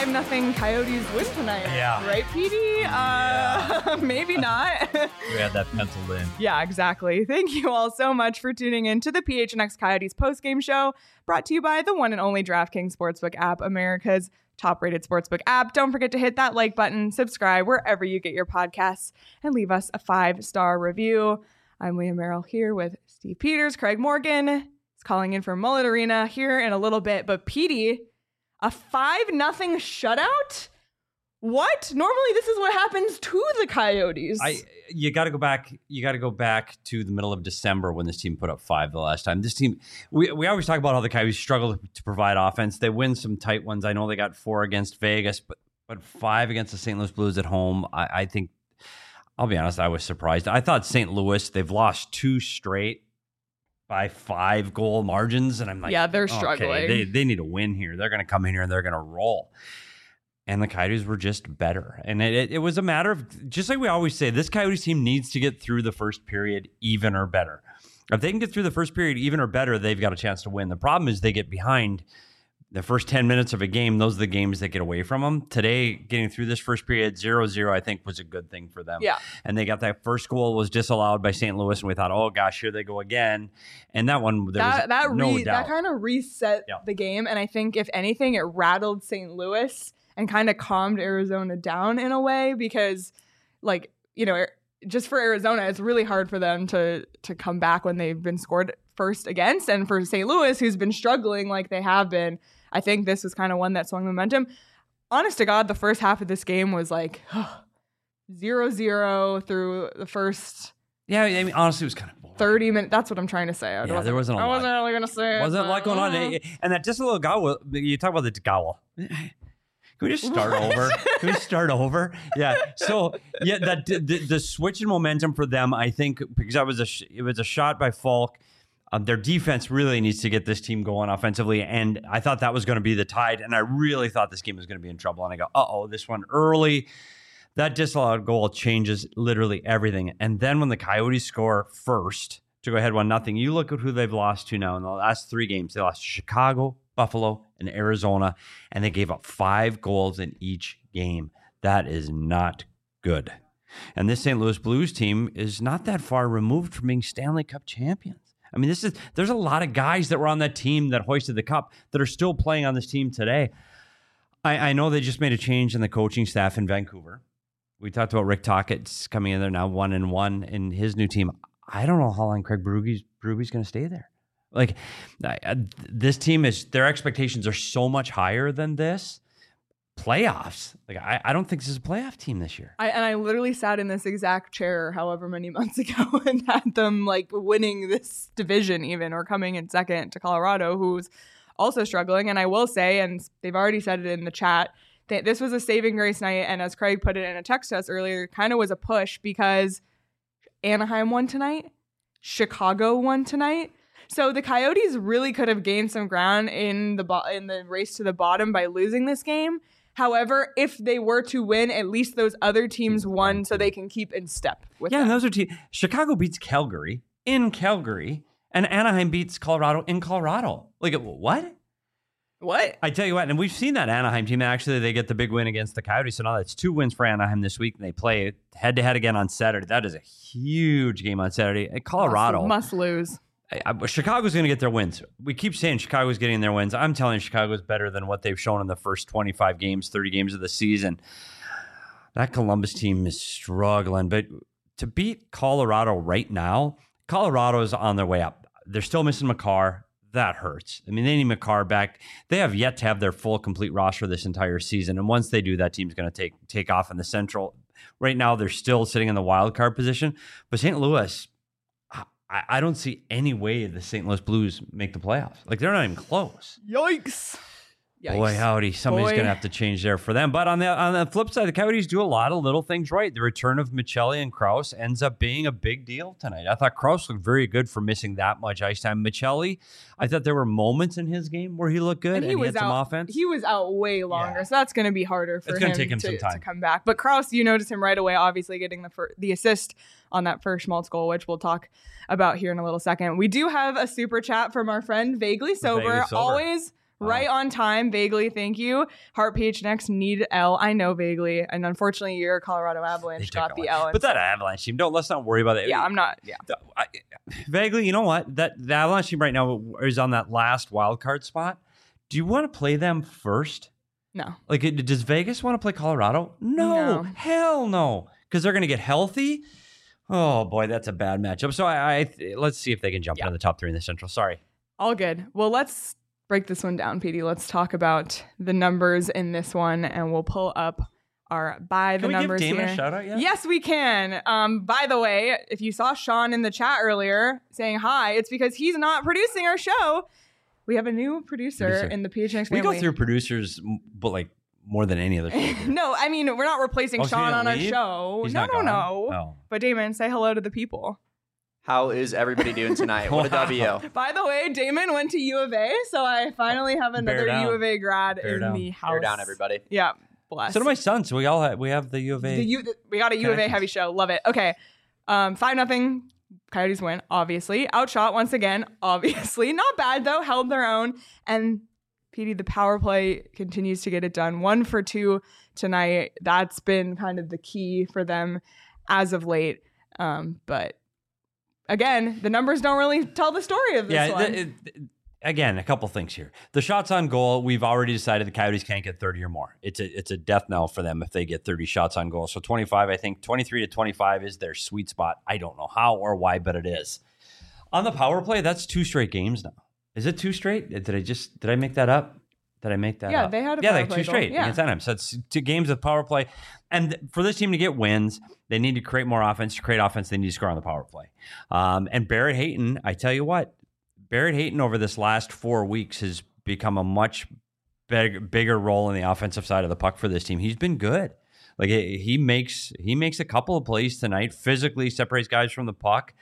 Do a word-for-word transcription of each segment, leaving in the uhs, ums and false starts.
five nothing Coyotes win tonight. Yeah. Right, P D? Yeah. Uh, maybe not. We had that penciled in. Yeah, exactly. Thank you all so much for tuning in to the P H N X Coyotes postgame show, brought to you by the one and only DraftKings Sportsbook app, America's top-rated sportsbook app. Don't forget to hit that like button, subscribe wherever you get your podcasts, and leave us a five-star review. I'm Leah Merrill here with Steve Peters. Craig Morgan is calling in from Mullet Arena here in a little bit. But P D, a five nothing shutout? What? Normally this is what happens to the Coyotes. I you got to go back. You got to go back to the middle of December when this team put up five the last time. This team, we we always talk about how the Coyotes struggle to provide offense. They win some tight ones. I know they got four against Vegas, but but five against the Saint Louis Blues at home. I, I think. I'll be honest. I was surprised. I thought Saint Louis. They've lost two straight by five goal margins, and I'm like, yeah, they're okay, struggling. They they need a win here. They're going to come in here and they're going to roll. And the Coyotes were just better. And it, it, it was a matter of, just like we always say, this Coyotes team needs to get through the first period even or better. If they can get through the first period even or better, they've got a chance to win. The problem is they get behind the first ten minutes of a game. Those are the games that get away from them. Today, getting through this first period, zero zero, I think was a good thing for them. Yeah. And they got that first goal was disallowed by Saint Louis, and we thought, oh gosh, here they go again. And that one, there that was that, no re- doubt. that kind of reset Yeah. the game. And I think, if anything, it rattled Saint Louis and kind of calmed Arizona down in a way, because, like, you know, just for Arizona, it's really hard for them to to come back when they've been scored first against. And for Saint Louis, who's been struggling like they have been, I think this was kind of one that swung momentum. Honest to God, the first half of this game was like zero zero through the first Yeah, I mean, honestly, it was kind of boring. thirty minutes. That's what I'm trying to say. I Yeah, there wasn't a I lot. wasn't really going to say it. Wasn't a lot but, going on. uh, And that just a little gowl, you talk about the gowl. Can we just start over? Can we start over? Yeah. So yeah, that the, the switch in momentum for them, I think, because that was a sh- it was a shot by Falk. Um, their defense really needs to get this team going offensively, and I thought that was going to be the tide. And I really thought this game was going to be in trouble. And I go, uh oh, this one early. That disallowed goal changes literally everything. And then when the Coyotes score first to go ahead one nothing, you look at who they've lost to now in the last three games. They lost to Chicago, Buffalo, and Arizona, and they gave up five goals in each game. That is not good. And this Saint Louis Blues team is not that far removed from being Stanley Cup champions. I mean, this is there's a lot of guys that were on that team that hoisted the cup that are still playing on this team today. I, I know they just made a change in the coaching staff in Vancouver. We talked about Rick Tocchet's coming in there now, one and one in his new team. I don't know how long Craig Berube's Berube's going to stay there. Like, uh, this team is, their expectations are so much higher than this. Playoffs. Like, I, I don't think this is a playoff team this year. I, and I literally sat in this exact chair however many months ago and had them like winning this division even, or coming in second to Colorado, who's also struggling. And I will say, and they've already said it in the chat, that this was a saving grace night. And as Craig put it in a text to us earlier, kind of was a push because Anaheim won tonight. Chicago won tonight. So the Coyotes really could have gained some ground in the bo- in the race to the bottom by losing this game. However, if they were to win, at least those other teams won, so they can keep in step with Yeah, them. and those are teams. Chicago beats Calgary in Calgary, and Anaheim beats Colorado in Colorado. Like, what? What? I tell you what, and we've seen that Anaheim team. Actually, they get the big win against the Coyotes, so now that's two wins for Anaheim this week, and they play head-to-head again on Saturday. That is a huge game on Saturday. At Colorado. Must, must lose. I, I, Chicago's going to get their wins. We keep saying Chicago's getting their wins. I'm telling you, Chicago's better than what they've shown in the first twenty-five games, thirty games of the season. That Columbus team is struggling, but to beat Colorado right now, Colorado's on their way up. They're still missing Makar. That hurts. I mean, they need Makar back. They have yet to have their full, complete roster this entire season, and once they do, that team's going to take take off in the Central. Right now, they're still sitting in the wild card position, but Saint Louis, I, I don't see any way the Saint Louis Blues make the playoffs. Like, they're not even close. Yikes. Yikes. Boy, howdy. Somebody's Boy. going to have to change there for them. But on the on the flip side, the Coyotes do a lot of little things right. The return of Michelli and Krause ends up being a big deal tonight. I thought Krause looked very good for missing that much ice time. Michelli, I thought there were moments in his game where he looked good and, And he, and he was had some out, offense. He was out way longer, Yeah. so that's going to be harder for It's him, gonna take him to, some time. to come back. But Krause, you notice him right away, obviously getting the fir- the assist on that first Schmaltz goal, which we'll talk about here in a little second. We do have a super chat from our friend Vaguely Sober. Vaguely Sober. Always Right on time, vaguely. Thank you. Heart P H N X need L. I know vaguely, and unfortunately, your Colorado Avalanche got the L. But that Avalanche team, don't let's not worry about it. Yeah, I'm not. Yeah, the, I, vaguely. You know what? That the Avalanche team right now is on that last wild card spot. Do you want to play them first? No. Like, it, does Vegas want to play Colorado? No, no. Hell no, because they're going to get healthy. Oh boy, that's a bad matchup. So I, I let's see if they can jump yeah. into the top three in the Central. Sorry. All good. Well, let's break this one down, P D. Let's talk about the numbers in this one, and we'll pull up our by the can we numbers give Damon here. A shout out yet? Yes, we can. Um, by the way, if you saw Sean in the chat earlier saying hi, it's because he's not producing our show. We have a new producer, producer. in the P H N X family. We go through producers, but like more than any other show. No, I mean, we're not replacing oh, Sean on leave? our show. He's no, no, gone? no. Oh. But Damon, say hello to the people. How is everybody doing tonight? What a W. By the way, Damon went to U of A, so I finally have another U of A grad Bear in down. the house. Bear down, everybody. Yeah, bless. So do my sons. So we all have, we have the U of A. The U, we got a U of A heavy show. Love it. Okay, um, five nothing. Coyotes win, obviously. Outshot once again, obviously. Not bad though. Held their own. And P D, the power play continues to get it done. One for two tonight. That's been kind of the key for them as of late. Um, but again, the numbers don't really tell the story of this yeah, one. The, it, again, a couple things here. The shots on goal, we've already decided the Coyotes can't get thirty or more. It's a it's a death knell for them if they get thirty shots on goal. So twenty-five, I think twenty-three to twenty-five is their sweet spot. I don't know how or why, but it is. On the power play, that's two straight games now. Is it two straight? Did I just did I make that up? Did I make that yeah, up? they had a yeah, power like play two goal. straight Yeah. against Anaheim. So it's two games of power play. And for this team to get wins, they need to create more offense. To create offense, they need to score on the power play. Um, and Barrett Hayton, I tell you what, Barrett Hayton over this last four weeks has become a much big, bigger role in the offensive side of the puck for this team. He's been good. Like he makes he makes a couple of plays tonight, physically separates guys from the puck.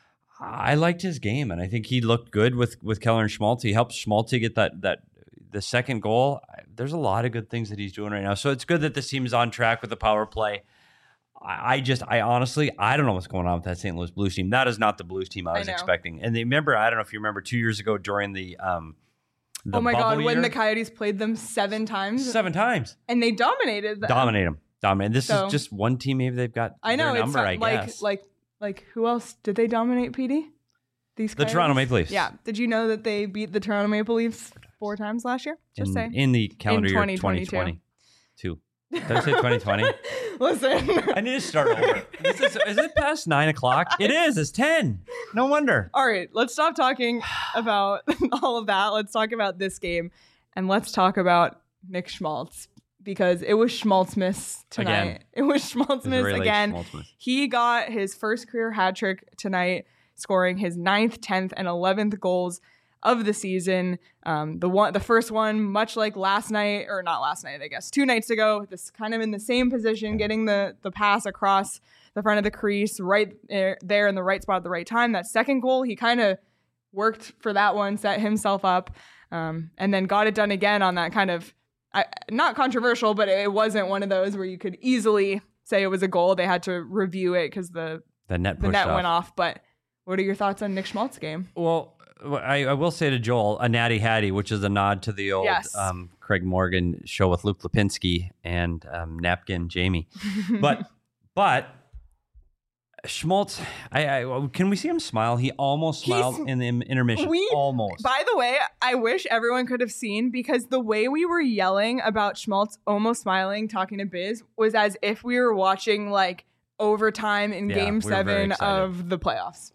I liked his game, and I think he looked good with with Keller and Schmaltz. He helped Schmaltz get that that the second goal. There's a lot of good things that he's doing right now. So it's good that this team is on track with the power play. I, I just, I honestly, I don't know what's going on with that Saint Louis Blues team. That is not the Blues team I was I expecting. And they remember, I don't know if you remember two years ago during the um, the oh my God, year, when the Coyotes played them seven times. Seven times. And they dominated them. Dominate them. Dominate. This So, is just one team. Maybe they've got I know, their it's number, not, I like, guess. like, like who else did they dominate, P D? These the Coyotes? Toronto Maple Leafs. Yeah. Did you know that they beat the Toronto Maple Leafs four times last year? Just in, saying. In the calendar in year twenty twenty-two. Did I say twenty twenty? Listen. I need to start over. This is, is it past nine o'clock? It is. It's ten. No wonder. All right. Let's stop talking about all of that. Let's talk about this game. And let's talk about Nick Schmaltz. Because it was Schmaltzmas tonight. Again. It was Schmaltzmas really again. Schmaltzmas. He got his first career hat trick tonight, scoring his ninth, tenth, and eleventh goals of the season. Um, the one, the first one, much like last night, or not last night, I guess, two nights ago, this kind of in the same position, getting the the pass across the front of the crease, right there, there in the right spot at the right time. That second goal, he kind of worked for that one, set himself up, um, and then got it done again on that kind of, I, not controversial, but it wasn't one of those where you could easily say it was a goal. They had to review it because the the net, the net off. went off. But what are your thoughts on Nick Schmaltz's game? Well, I, I will say to Joel, a natty hattie, which is a nod to the old Yes. um, Craig Morgan show with Luke Lipinski and um, Napkin Jamie. But but Schmaltz, I, I can we see him smile? He almost smiled He's- in the intermission. we- almost. By the way, I wish everyone could have seen, because the way we were yelling about Schmaltz almost smiling, talking to Biz, was as if we were watching like overtime in Yeah, game we were very seven excited. of the playoffs.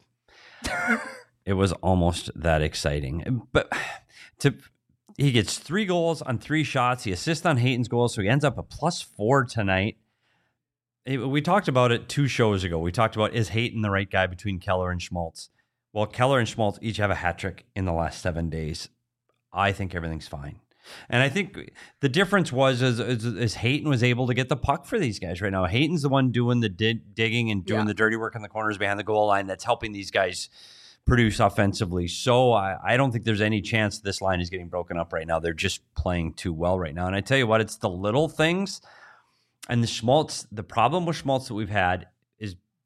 It was almost that exciting. But to he gets three goals on three shots. He assists on Hayton's goal, so he ends up a plus four tonight. It- we talked about it two shows ago. We talked about, is Hayton the right guy between Keller and Schmaltz? Well, Keller and Schmaltz each have a hat trick in the last seven days. I think everything's fine. And I think the difference was is, is, is Hayton was able to get the puck for these guys right now. Hayton's the one doing the di- digging and doing Yeah. the dirty work in the corners behind the goal line that's helping these guys produce offensively. So I, I don't think there's any chance this line is getting broken up right now. They're just playing too well right now. And I tell you what, it's the little things. And the Schmaltz, the problem with Schmaltz that we've had is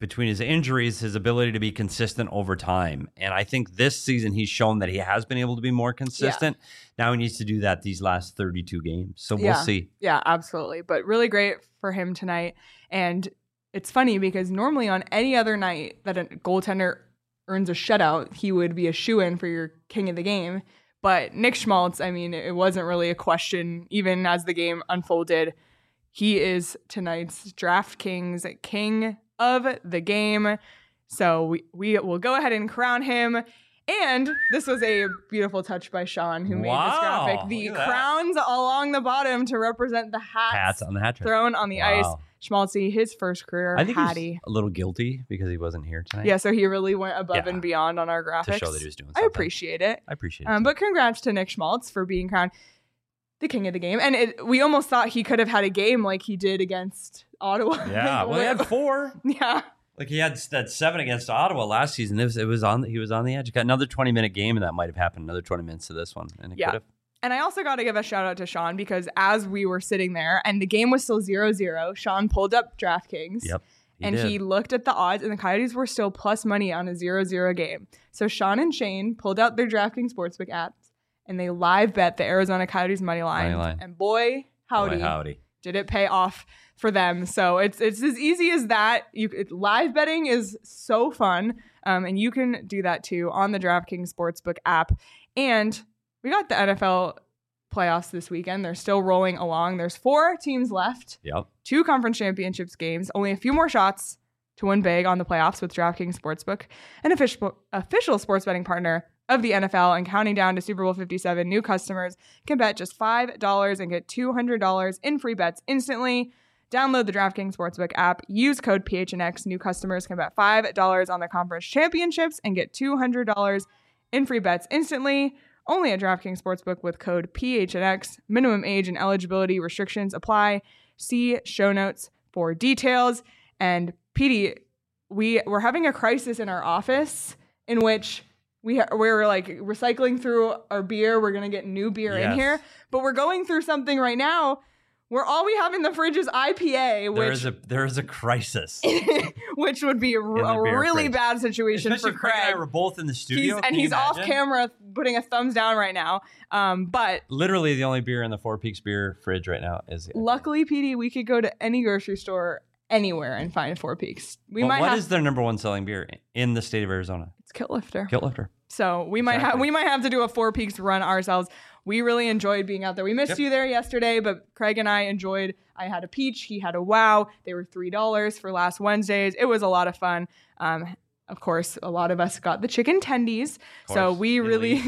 between his injuries, his ability to be consistent over time. And I think this season he's shown that he has been able to be more consistent. Yeah. Now he needs to do that these last thirty-two games. So we'll yeah. see. Yeah, absolutely. But really great for him tonight. And it's funny because normally on any other night that a goaltender earns a shutout, he would be a shoo-in for your king of the game. But Nick Schmaltz, I mean, it wasn't really a question even as the game unfolded. He is tonight's DraftKings king of the game. So we, we will go ahead and crown him. And this was a beautiful touch by Sean who made wow, this graphic. The crowns along the bottom to represent the hats, hats on the hat trick. Thrown on the wow. ice. Schmaltzy, his first career I think Hattie. He's a little guilty because he wasn't here tonight. Yeah, so he really went above yeah. and beyond on our graphics. To show that he was doing something. I appreciate it. I appreciate it. Um, but congrats to Nick Schmaltz for being crowned the king of the game. And it, we almost thought he could have had a game like he did against Ottawa. Yeah, well, he had four. Yeah. Like he had that seven against Ottawa last season. It was, it was on. He was on the edge. Got another twenty minute game, and that might have happened. Another twenty minutes to this one, and it yeah. could have. And I also got to give a shout out to Sean because as we were sitting there and the game was still zero zero, Sean pulled up DraftKings. Yep. He and did. he looked at the odds, and the Coyotes were still plus money on a zero zero game. So Sean and Shane pulled out their DraftKings Sportsbook apps, and they live bet the Arizona Coyotes money line. Money line. And boy, howdy, boy, howdy, did it pay off for them. So it's it's as easy as that. You it, live betting is so fun, um, and you can do that too on the DraftKings Sportsbook app. And we got the N F L playoffs this weekend. They're still rolling along. There's four teams left. Yep. Two conference championships games. Only a few more shots to win big on the playoffs with DraftKings Sportsbook, an official official sports betting partner of the N F L, and counting down to Super Bowl fifty-seven. New customers can bet just five dollars and get two hundred dollars in free bets instantly. Download the DraftKings Sportsbook app. Use code P H N X. New customers can bet five dollars on the conference championships and get two hundred dollars in free bets instantly. Only at DraftKings Sportsbook with code P H N X. Minimum age and eligibility restrictions apply. See show notes for details. And Petey, we we're having a crisis in our office in which we ha- we're like recycling through our beer. We're gonna get new beer yes. in here, but we're going through something right now where all we have in the fridge is I P A, which there is a there is a crisis, which would be a, a really fridge. bad situation Especially for Craig. Craig. And I were both in the studio, he's, and Can he's you off imagine? camera putting a thumbs down right now. Um, but literally the only beer in the Four Peaks beer fridge right now is. Luckily, P D, we could go to any grocery store anywhere and find Four Peaks. We well, might what have, is their number one selling beer in the state of Arizona? It's Kilt Lifter. Kilt Lifter. So we might have we might have to do a Four Peaks run ourselves. We really enjoyed being out there. We missed yep. you there yesterday, but Craig and I enjoyed. I had a peach. He had a wow. They were three dollars for last Wednesdays. It was a lot of fun. Um, of course, a lot of us got the chicken tendies. So we really,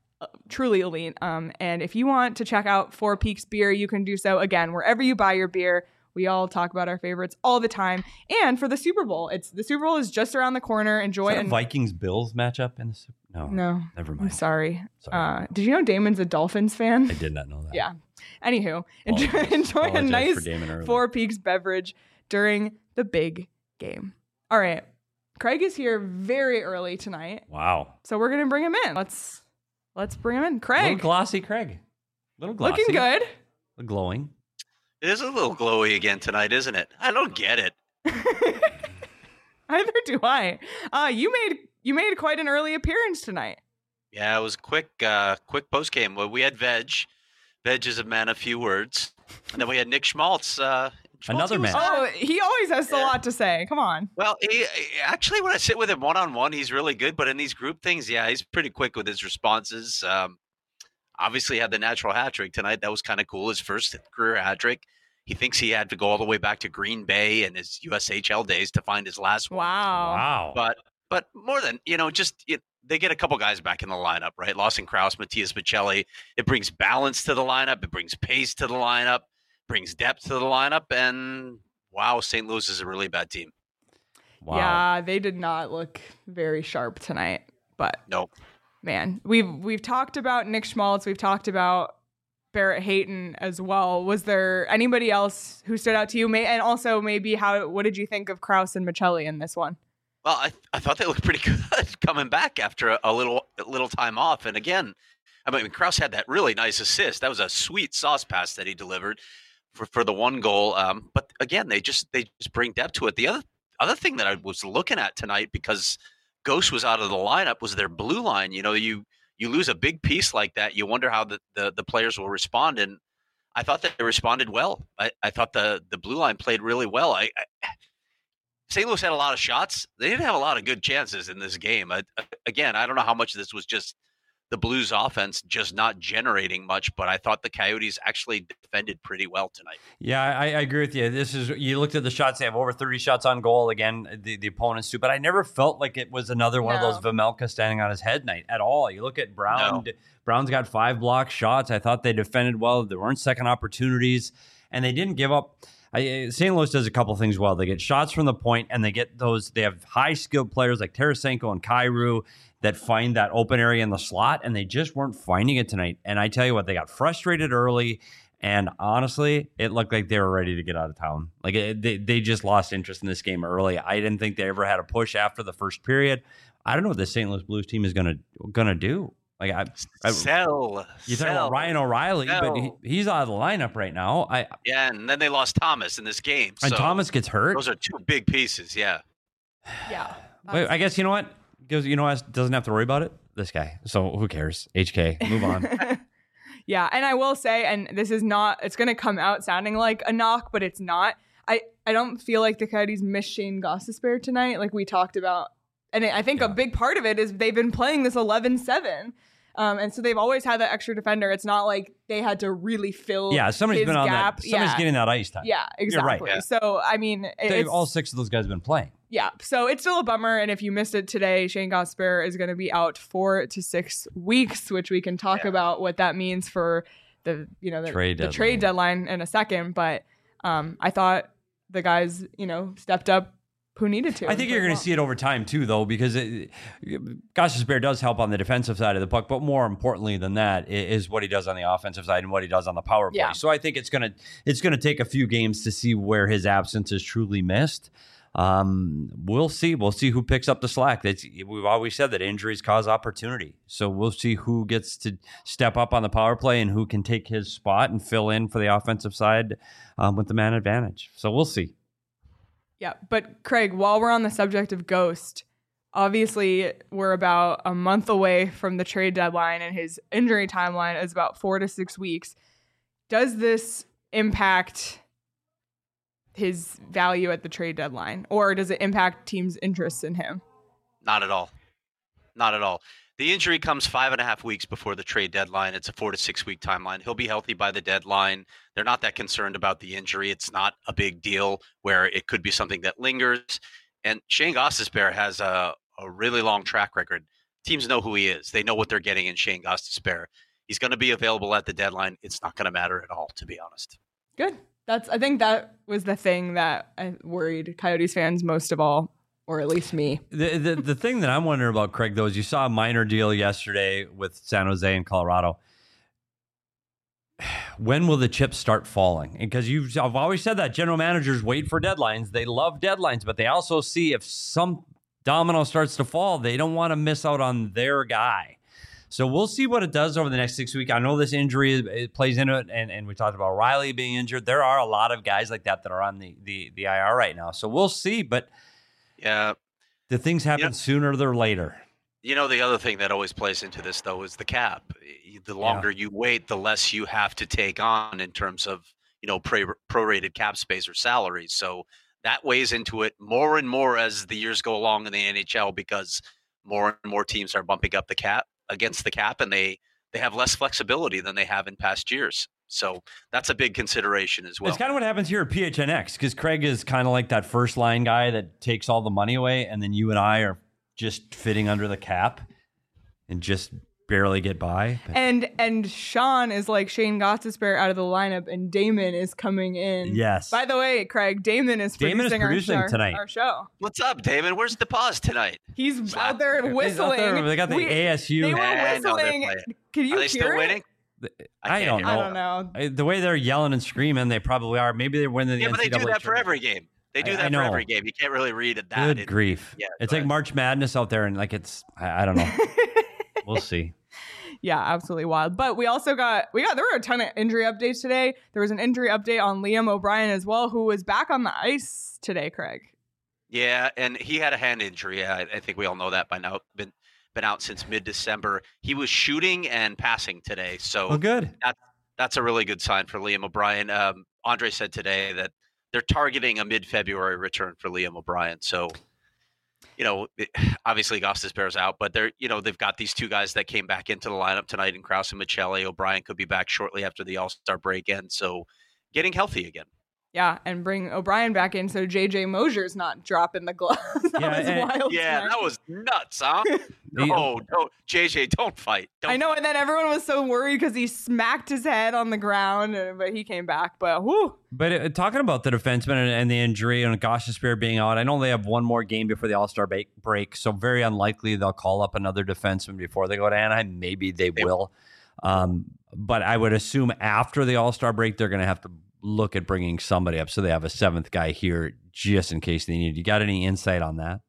truly elite. Um, and if you want to check out Four Peaks beer, you can do so again wherever you buy your beer. We all talk about our favorites all the time. And for the Super Bowl, it's the Super Bowl is just around the corner. Enjoy it. And Vikings Bills matchup in the Super No. No. Never I'm mind. sorry. sorry. Uh, did you know Damon's a Dolphins fan? I did not know that. Yeah. Anywho, enjoy, Apologize. enjoy a Apologize nice for Damon early. Four Peaks beverage during the big game. All right. Craig is here very early tonight. Wow. So we're going to bring him in. Let's let's bring him in. Little Craig. glossy Craig. Little glossy. Looking good. Little glowing. It is a little glowy again tonight, isn't it? I don't get it. Either do I. Uh, you made you made quite an early appearance tonight. Yeah, it was quick, uh, quick post game. Well, we had Veg. Veg is a man of few words, and then we had Nick Schmaltz. Uh, Schmaltz, Another he was, man. uh, Oh, he always has a Yeah. lot to say. Come on. Well, he, he- actually, when I sit with him one on one, he's really good. But in these group things, yeah, he's pretty quick with his responses. Um, obviously, had the natural hat trick tonight. That was kind of cool. His first career hat trick. He thinks he had to go all the way back to Green Bay and his U S H L days to find his last one. Wow. Wow. But but more than, you know, just it, they get a couple guys back in the lineup, right? Lawson Krause, Matthias Michelli. It brings balance to the lineup. It brings pace to the lineup, brings depth to the lineup. And wow, Saint Louis is a really bad team. Wow. Yeah, they did not look very sharp tonight. But No. man, we've we've talked about Nick Schmaltz. We've talked about Barrett Hayton as well. Was there anybody else who stood out to you? May and also maybe how what did you think of Krause and Michelli in this one? Well, I I thought they looked pretty good coming back after a, a little a little time off. And again, I mean, Krause had that really nice assist. That was a sweet sauce pass that he delivered for, for the one goal. Um, but again, they just they just bring depth to it. The other other thing that I was looking at tonight, because Ghost was out of the lineup, was their blue line. You know, you you lose a big piece like that, you wonder how the, the, the players will respond. And I thought that they responded well. I, I thought the, the blue line played really well. I, I Saint Louis had a lot of shots. They didn't have a lot of good chances in this game. I, again, I don't know how much of this was just the Blues offense just not generating much, but I thought the Coyotes actually defended pretty well tonight. Yeah, I, I agree with you. This is, you looked at the shots, they have over thirty shots on goal again, the, the opponents do, but I never felt like it was another one No. of those Vejmelka standing on his head night at all. You look at Brown, No. Brown's got five block shots. I thought they defended well. There weren't second opportunities, and they didn't give up. I, Saint Louis does a couple things well. They get shots from the point, and they get those. They have high skilled players like Tarasenko and Kyrou that find that open area in the slot, and they just weren't finding it tonight. And I tell you what, they got frustrated early, and honestly, it looked like they were ready to get out of town. Like it, they they just lost interest in this game early. I didn't think they ever had a push after the first period. I don't know what the Saint Louis Blues team is gonna gonna do. Like I, I Sell. you talk sell. about Ryan O'Reilly, but he, Sell. he's out of the lineup right now. I Yeah, and then they lost Thomas in this game. and so Thomas gets hurt. Those are two big pieces, yeah. Yeah. Wait, I guess you know what? Goes, you know what? Doesn't have to worry about it. This guy. So who cares? H K. Move on. Yeah, and I will say, and this is not, it's going to come out sounding like a knock, but it's not. I, I don't feel like the Coyotes miss Shane Gostisbehere tonight, like we talked about. And I think Yeah. a big part of it is they've been playing this eleven seven. Um, and so they've always had that extra defender. It's not like they had to really fill Yeah, somebody's his been on gap. that. Somebody's yeah. getting that ice time. Yeah, You're right. exactly. Yeah. So, I mean, it- They, it's, all six of those guys have been playing. yeah, so it's still a bummer. And if you missed it today, Shane Gostisbehere is going to be out four to six weeks, which we can talk Yeah. about what that means for the, you know, the Trade the deadline. trade deadline in a second. But um, I thought the guys, you know, stepped up who needed to. I think you're going to see it over time too, though, because it, Gostisbehere does help on the defensive side of the puck, but more importantly than that i- is what he does on the offensive side and what he does on the power play. Yeah. So I think it's going to it's going to take a few games to see where his absence is truly missed. Um, we'll see. We'll see who picks up the slack. That's, we've always said that injuries cause opportunity. So we'll see who gets to step up on the power play and who can take his spot and fill in for the offensive side um, with the man advantage. So we'll see. Yeah, but Craig, while we're on the subject of Ghost, obviously we're about a month away from the trade deadline, and his injury timeline is about four to six weeks. Does this impact his value at the trade deadline, or does it impact teams' interests in him? Not at all. Not at all. The injury comes five and a half weeks before the trade deadline. It's a four to six week timeline. He'll be healthy by the deadline. They're not that concerned about the injury. It's not a big deal where it could be something that lingers. And Shane Gostisbehere has a, a really long track record. Teams know who he is. They know what they're getting in Shane Gostisbehere. He's going to be available at the deadline. It's not going to matter at all, to be honest. Good. That's. I think that was the thing that I worried Coyotes fans most of all, or at least me. The, the the thing that I'm wondering about, Craig, though, is you saw a minor deal yesterday with San Jose and Colorado. When will the chips start falling? Because you've I've always said that general managers wait for deadlines. They love deadlines, but they also see if some domino starts to fall, they don't want to miss out on their guy. So we'll see what it does over the next six weeks. I know this injury it plays into it, and, and we talked about Riley being injured. There are a lot of guys like that that are on the the, the I R right now. So we'll see, but Yeah. the things happen Yeah. sooner or later. You know, the other thing that always plays into this, though, is the cap. The longer you wait, the less you have to take on in terms of, you know, pro- prorated cap space or salaries. So that weighs into it more and more as the years go along in the N H L, because more and more teams are bumping up the cap against the cap, and they, they have less flexibility than they have in past years. So that's a big consideration as well. It's kind of what happens here at P H N X, because Craig is kind of like that first line guy that takes all the money away, and then you and I are just fitting under the cap and just barely get by. But And and Sean is like Shane Gostisbehere out of the lineup, and Damon is coming in. yes. By the way, Craig, Damon is Damon is producing, our producing show- tonight. Our show. What's up, David? Where's the pause tonight? He's Slap. out there He's out whistling. there, they got the We- A S U. They were Yeah, I know they're whistling. playing. Can you Are they hear still it? winning? I, can't don't hear know. I don't know. I- The way they're yelling and screaming, they probably are. Maybe they're winning the Yeah, but they do N C double A that for tournament. every game. They do I- that I for know. every game. You can't really read it that. Good It- grief. yeah, it's go like ahead. March Madness out there, and like it's, I, I don't know. We'll see. Yeah, absolutely wild. But we also got we got there were a ton of injury updates today. There was an injury update on Liam O'Brien as well, who was back on the ice today, Craig. Yeah, and he had a hand injury. I, I think we all know that by now. Been been out since mid-December. He was shooting and passing today, so Oh, good. that's that's a really good sign for Liam O'Brien. Um, Andre said today that they're targeting a mid-February return for Liam O'Brien. So, you know, it, obviously Gostisbehere's out, but they're you know they've got these two guys that came back into the lineup tonight in Krause and Michelli. O'Brien could be back shortly after the All-Star break ends, so getting healthy again. Yeah, and bring O'Brien back in so J J Mosier's not dropping the gloves. that Yeah, was and- wild. Yeah, tonight. that was nuts, huh? No, no, J J, don't fight. Don't I know, and then everyone was so worried because he smacked his head on the ground, uh, but he came back. But whoo, But uh, talking about the defenseman and, and the injury and Gostisbehere being out, I know they have one more game before the All-Star ba- break, so very unlikely they'll call up another defenseman before they go to Anaheim. Maybe they, They- will. Um, but I would assume after the All-Star break, they're going to have to look at bringing somebody up so they have a seventh guy here just in case they need. You got any insight on that?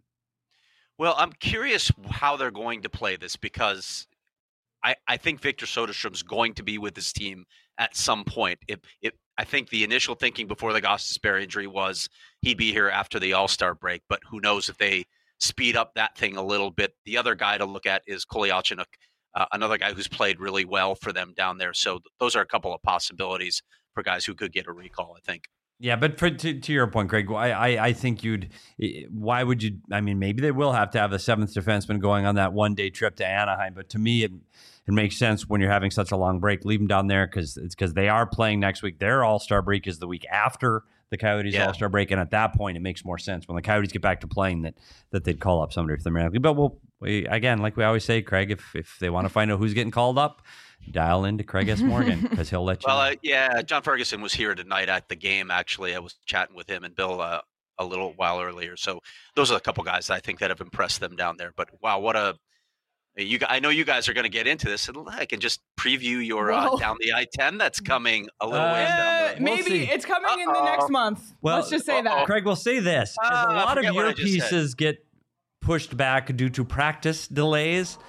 Well, I'm curious how they're going to play this because I, I think Victor Soderstrom's going to be with this team at some point. If, if I think the initial thinking before the Gostisbehere injury was he'd be here after the All-Star break, but who knows if they speed up that thing a little bit. The other guy to look at is Kolyachuk, uh, another guy who's played really well for them down there. So th- those are a couple of possibilities for guys who could get a recall, I think. Yeah, but for, to, to your point, Greg, I, I I think you'd. Why would you? I mean, maybe they will have to have a seventh defenseman going on that one day trip to Anaheim. But to me, it it makes sense when you're having such a long break. Leave them down there because it's because they are playing next week. Their All Star break is the week after the Coyotes Yeah. All Star break, and at that point, it makes more sense when the Coyotes get back to playing that that they'd call up somebody for them. But we'll we, again, like we always say, Craig, if if they want to find out who's getting called up, dial into Craig S. Morgan because he'll let you Well, know. uh, yeah, John Ferguson was here tonight at the game. Actually, I was chatting with him and Bill uh, a little while earlier. So those are a couple guys I think that have impressed them down there. But wow, what a you! I know you guys are going to get into this, and I can just preview your uh, Whoa. down the I ten that's coming a little Uh, ways down Eh, the road. We'll maybe see. it's coming in the Uh-oh. next month. Well, Let's just say uh-oh. that. Craig, we'll say this. As Ah, a lot of forget what your I just said. pieces get pushed back due to practice delays,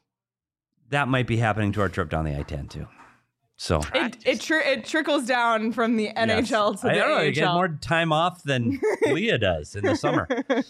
that might be happening to our trip down the I ten too. So It it, tri- it trickles down from the N H L yes. to I the don't know, A H L. you get more time off than Leah does in the summer.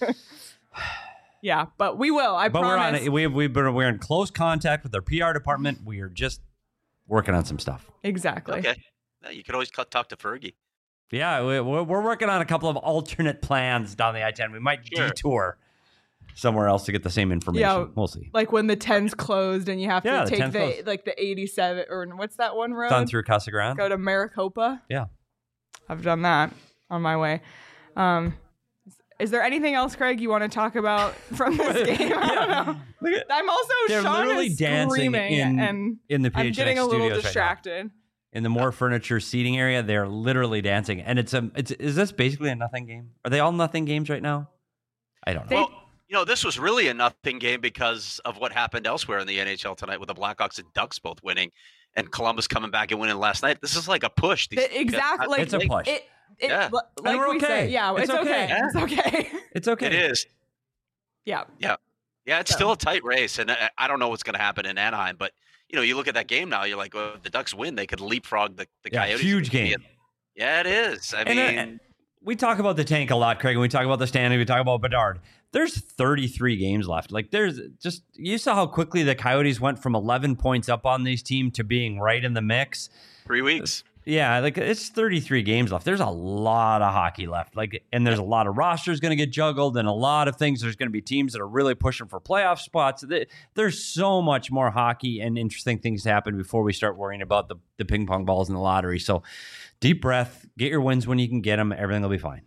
Yeah, but we will. I But promise. we're on it. We've we've been we're in close contact with our P R department. We are just working on some stuff. Exactly. Okay, Yeah, you could always cut, talk to Fergie. Yeah, we- we're we're working on a couple of alternate plans down the I ten. We might Sure. detour somewhere else to get the same information. Yeah. We'll see. Like when the ten's closed and you have Yeah, to the take ten's the closed. like the eighty-seven or what's that one road? Done through Casa Grande. Go to Maricopa. Yeah. I've done that on my way. Um, is there anything else, Craig, you want to talk about from this game? I don't know. Look at, I'm also They're Sean literally is dancing screaming in- and in the P H N X I'm getting a little studios right now. distracted. In the more furniture seating area, they're literally dancing, and it's a. It's is this basically a nothing game? Are they all nothing games right now? I don't know. They- Well, you know, this was really a nothing game because of what happened elsewhere in the N H L tonight with the Blackhawks and Ducks both winning and Columbus coming back and winning last night. This is like a push. These- The- exactly. Like, It's a push. It, it, Yeah. li- like we're we okay. say, yeah, It's it's, okay. okay. It's okay. It's okay. It is. yeah. Yeah, it's So- still a tight race, and I, I don't know what's going to happen in Anaheim. But you know, you look at that game now, you're like, well, if the Ducks win, they could leapfrog the, the Yeah, Coyotes. huge game. Yeah, it is. I And, uh, mean, We talk about the tank a lot, Craig, and we talk about the standing. We talk about Bedard. There's thirty-three games left. Like there's just you saw how quickly the Coyotes went from eleven points up on this team to being right in the mix. three weeks. Yeah, like it's thirty-three games left. There's a lot of hockey left. Like, and there's a lot of rosters going to get juggled, and a lot of things. There's going to be teams that are really pushing for playoff spots. Th- There's so much more hockey and interesting things to happen before we start worrying about the the ping pong balls in the lottery. So, deep breath, get your wins when you can get them. Everything will be fine.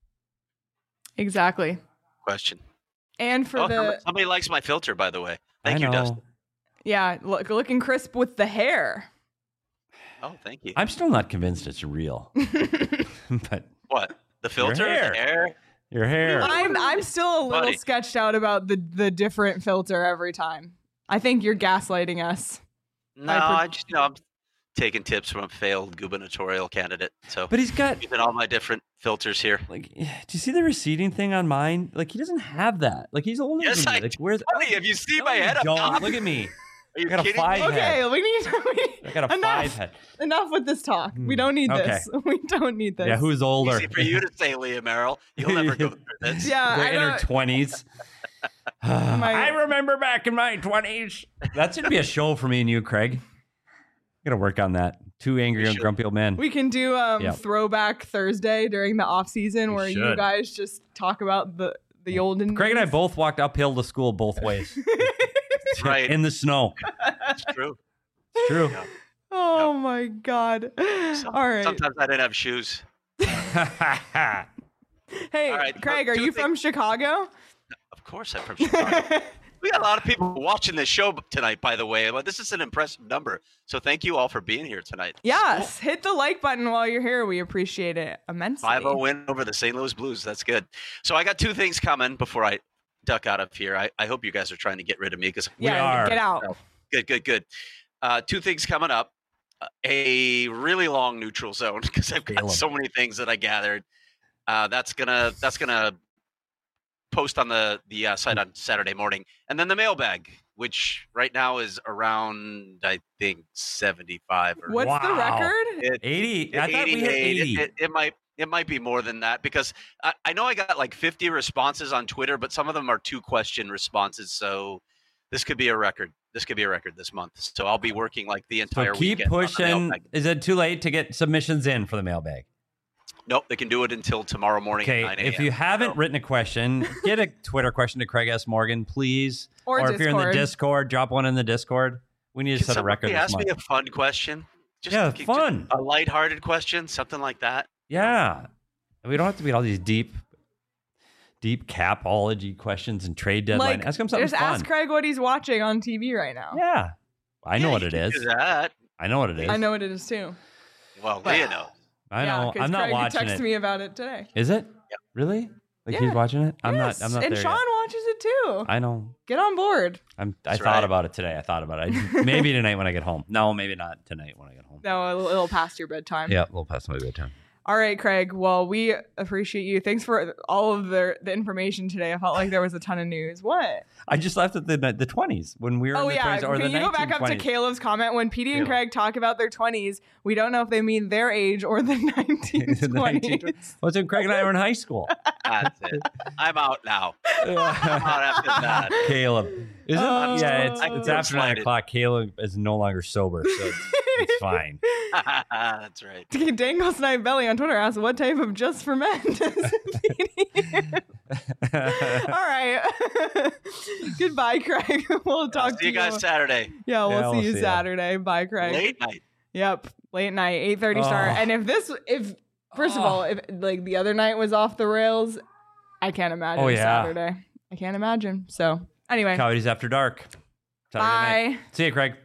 Exactly. Question. And for Oh, the somebody likes my filter, by the way. Thank I you, know. Dustin. yeah, look, looking crisp with the hair. Oh, thank you. I'm still not convinced it's real, but What? The filter? hair. The hair? your hair. I'm I'm still a little Buddy. sketched out about the the different filter every time. I think you're gaslighting us. No, I pre- I just, you know, I'm taking tips from a failed gubernatorial candidate. So But he's got using all my different filters here. like, do you see the receding thing on mine? Like, he doesn't have that. Like, he's older Yes, than me. I Like, where's Buddy, have you seen No, my you head up don't. top? Look at me. Are you I got a kidding five me? head. Okay, we need we, I got a enough. five head. Enough with this talk. We Hmm, don't need okay. this. We don't need this. Yeah, who's older? Easy for you to say, Leah Merrill. You'll never go through this. Yeah, They're I in her don't- twenties. I remember back in my twenties. That should be a show for me and you, Craig. Gotta work on that. Two angry We and should. grumpy old men. We can do um Yep. throwback Thursday during the off season We where you should. guys just talk about the the olden. Craig and I days. both walked uphill to school both ways. Right. In the snow. That's true. It's true. Yeah. Oh my god! Some- All right. Sometimes I didn't have shoes. Hey, All right, Craig, so are two you things- from Chicago? Of course, I'm from Chicago. We got a lot of people watching this show tonight, by the way. But this is an impressive number. So thank you all for being here tonight. Yes. Hit the like button while you're here. We appreciate it immensely. five oh win over the Saint Louis Blues. That's good. So I got two things coming before I duck out of here. I, I hope you guys are trying to get rid of me because We Yeah, are. get out. good, good, good. Uh, two things coming up. Uh, a really long neutral zone because I've got Caleb. so many things that I gathered. Uh, that's gonna that's gonna post on the the uh, site on Saturday morning, and then the mailbag, which right now is around I think seventy-five or What's the Wow. record? it, eighty. I thought we hit eighty-eight. eighty. It, it, it might it might be more than that because I, I know I got like fifty responses on Twitter, but some of them are two question responses. So this could be a record. This could be a record this month. So I'll be working like the So entire keep weekend on the pushing. mailbag. Is it too late to get submissions in for the mailbag? Nope, they can do it until tomorrow morning Okay, at nine a.m. if you haven't So- written a question, get a Twitter question to Craig S. Morgan, please. Or if you're in the Discord. Discord, drop one in the Discord. We need to Can set a record somebody this ask month. me a fun question? Just, Yeah, just fun. a lighthearted question, something like that. Yeah. We don't have to beat all these deep, deep capology questions and trade deadline. Like, ask him something just fun. ask Craig what he's watching on T V right now. Yeah. I know Yeah, what you it can is. do that. I know what it is. I know what it is too. Well, But- Leah knows. I yeah, know. 'cause I'm not Craig watching texted it. me about it today. Is it? Yep. Really? Like Yeah. he's watching it? I'm Yes, not I'm not and there Sean yet. watches it too. I know. Get on board. I'm I That's thought right. about it today. I thought about it. I, maybe tonight when I get home. No, maybe not tonight when I get home. No, a little past your bedtime. Yeah, a little past my bedtime. All right, Craig. Well, we appreciate you. Thanks for all of the the information today. I felt like there was a ton of news. What? I just left at the the twenties when we were Oh in the yeah. twenties or Can the you go back up to nineteen twenties. Caleb's comment when Petey and Caleb. Craig talk about their twenties? We don't know if they mean their age or the nineteen The nineteen twenties. Well, it's when Craig and I were in high school. That's it. I'm out now. I'm out after that. Caleb. Is it? Oh. yeah, it's, I it's feel after nine slighted. o'clock. Caleb is no longer sober, so it's, it's fine. That's right. Dangle Snipe Belly on Twitter asks, "What type of just for men does Petey?" All right. Goodbye, Craig. We'll talk to See you guys Saturday. Yeah, we'll Yeah, see we'll you see ya. Saturday. Bye, Craig. Late night. Yep, late night, eight thirty start. Oh. And if this, if first of Oh. all, if like the other night was off the rails, I can't imagine Oh, yeah. Saturday. I can't imagine. So anyway, Coyotes After Dark. Saturday night. bye. See you, Craig.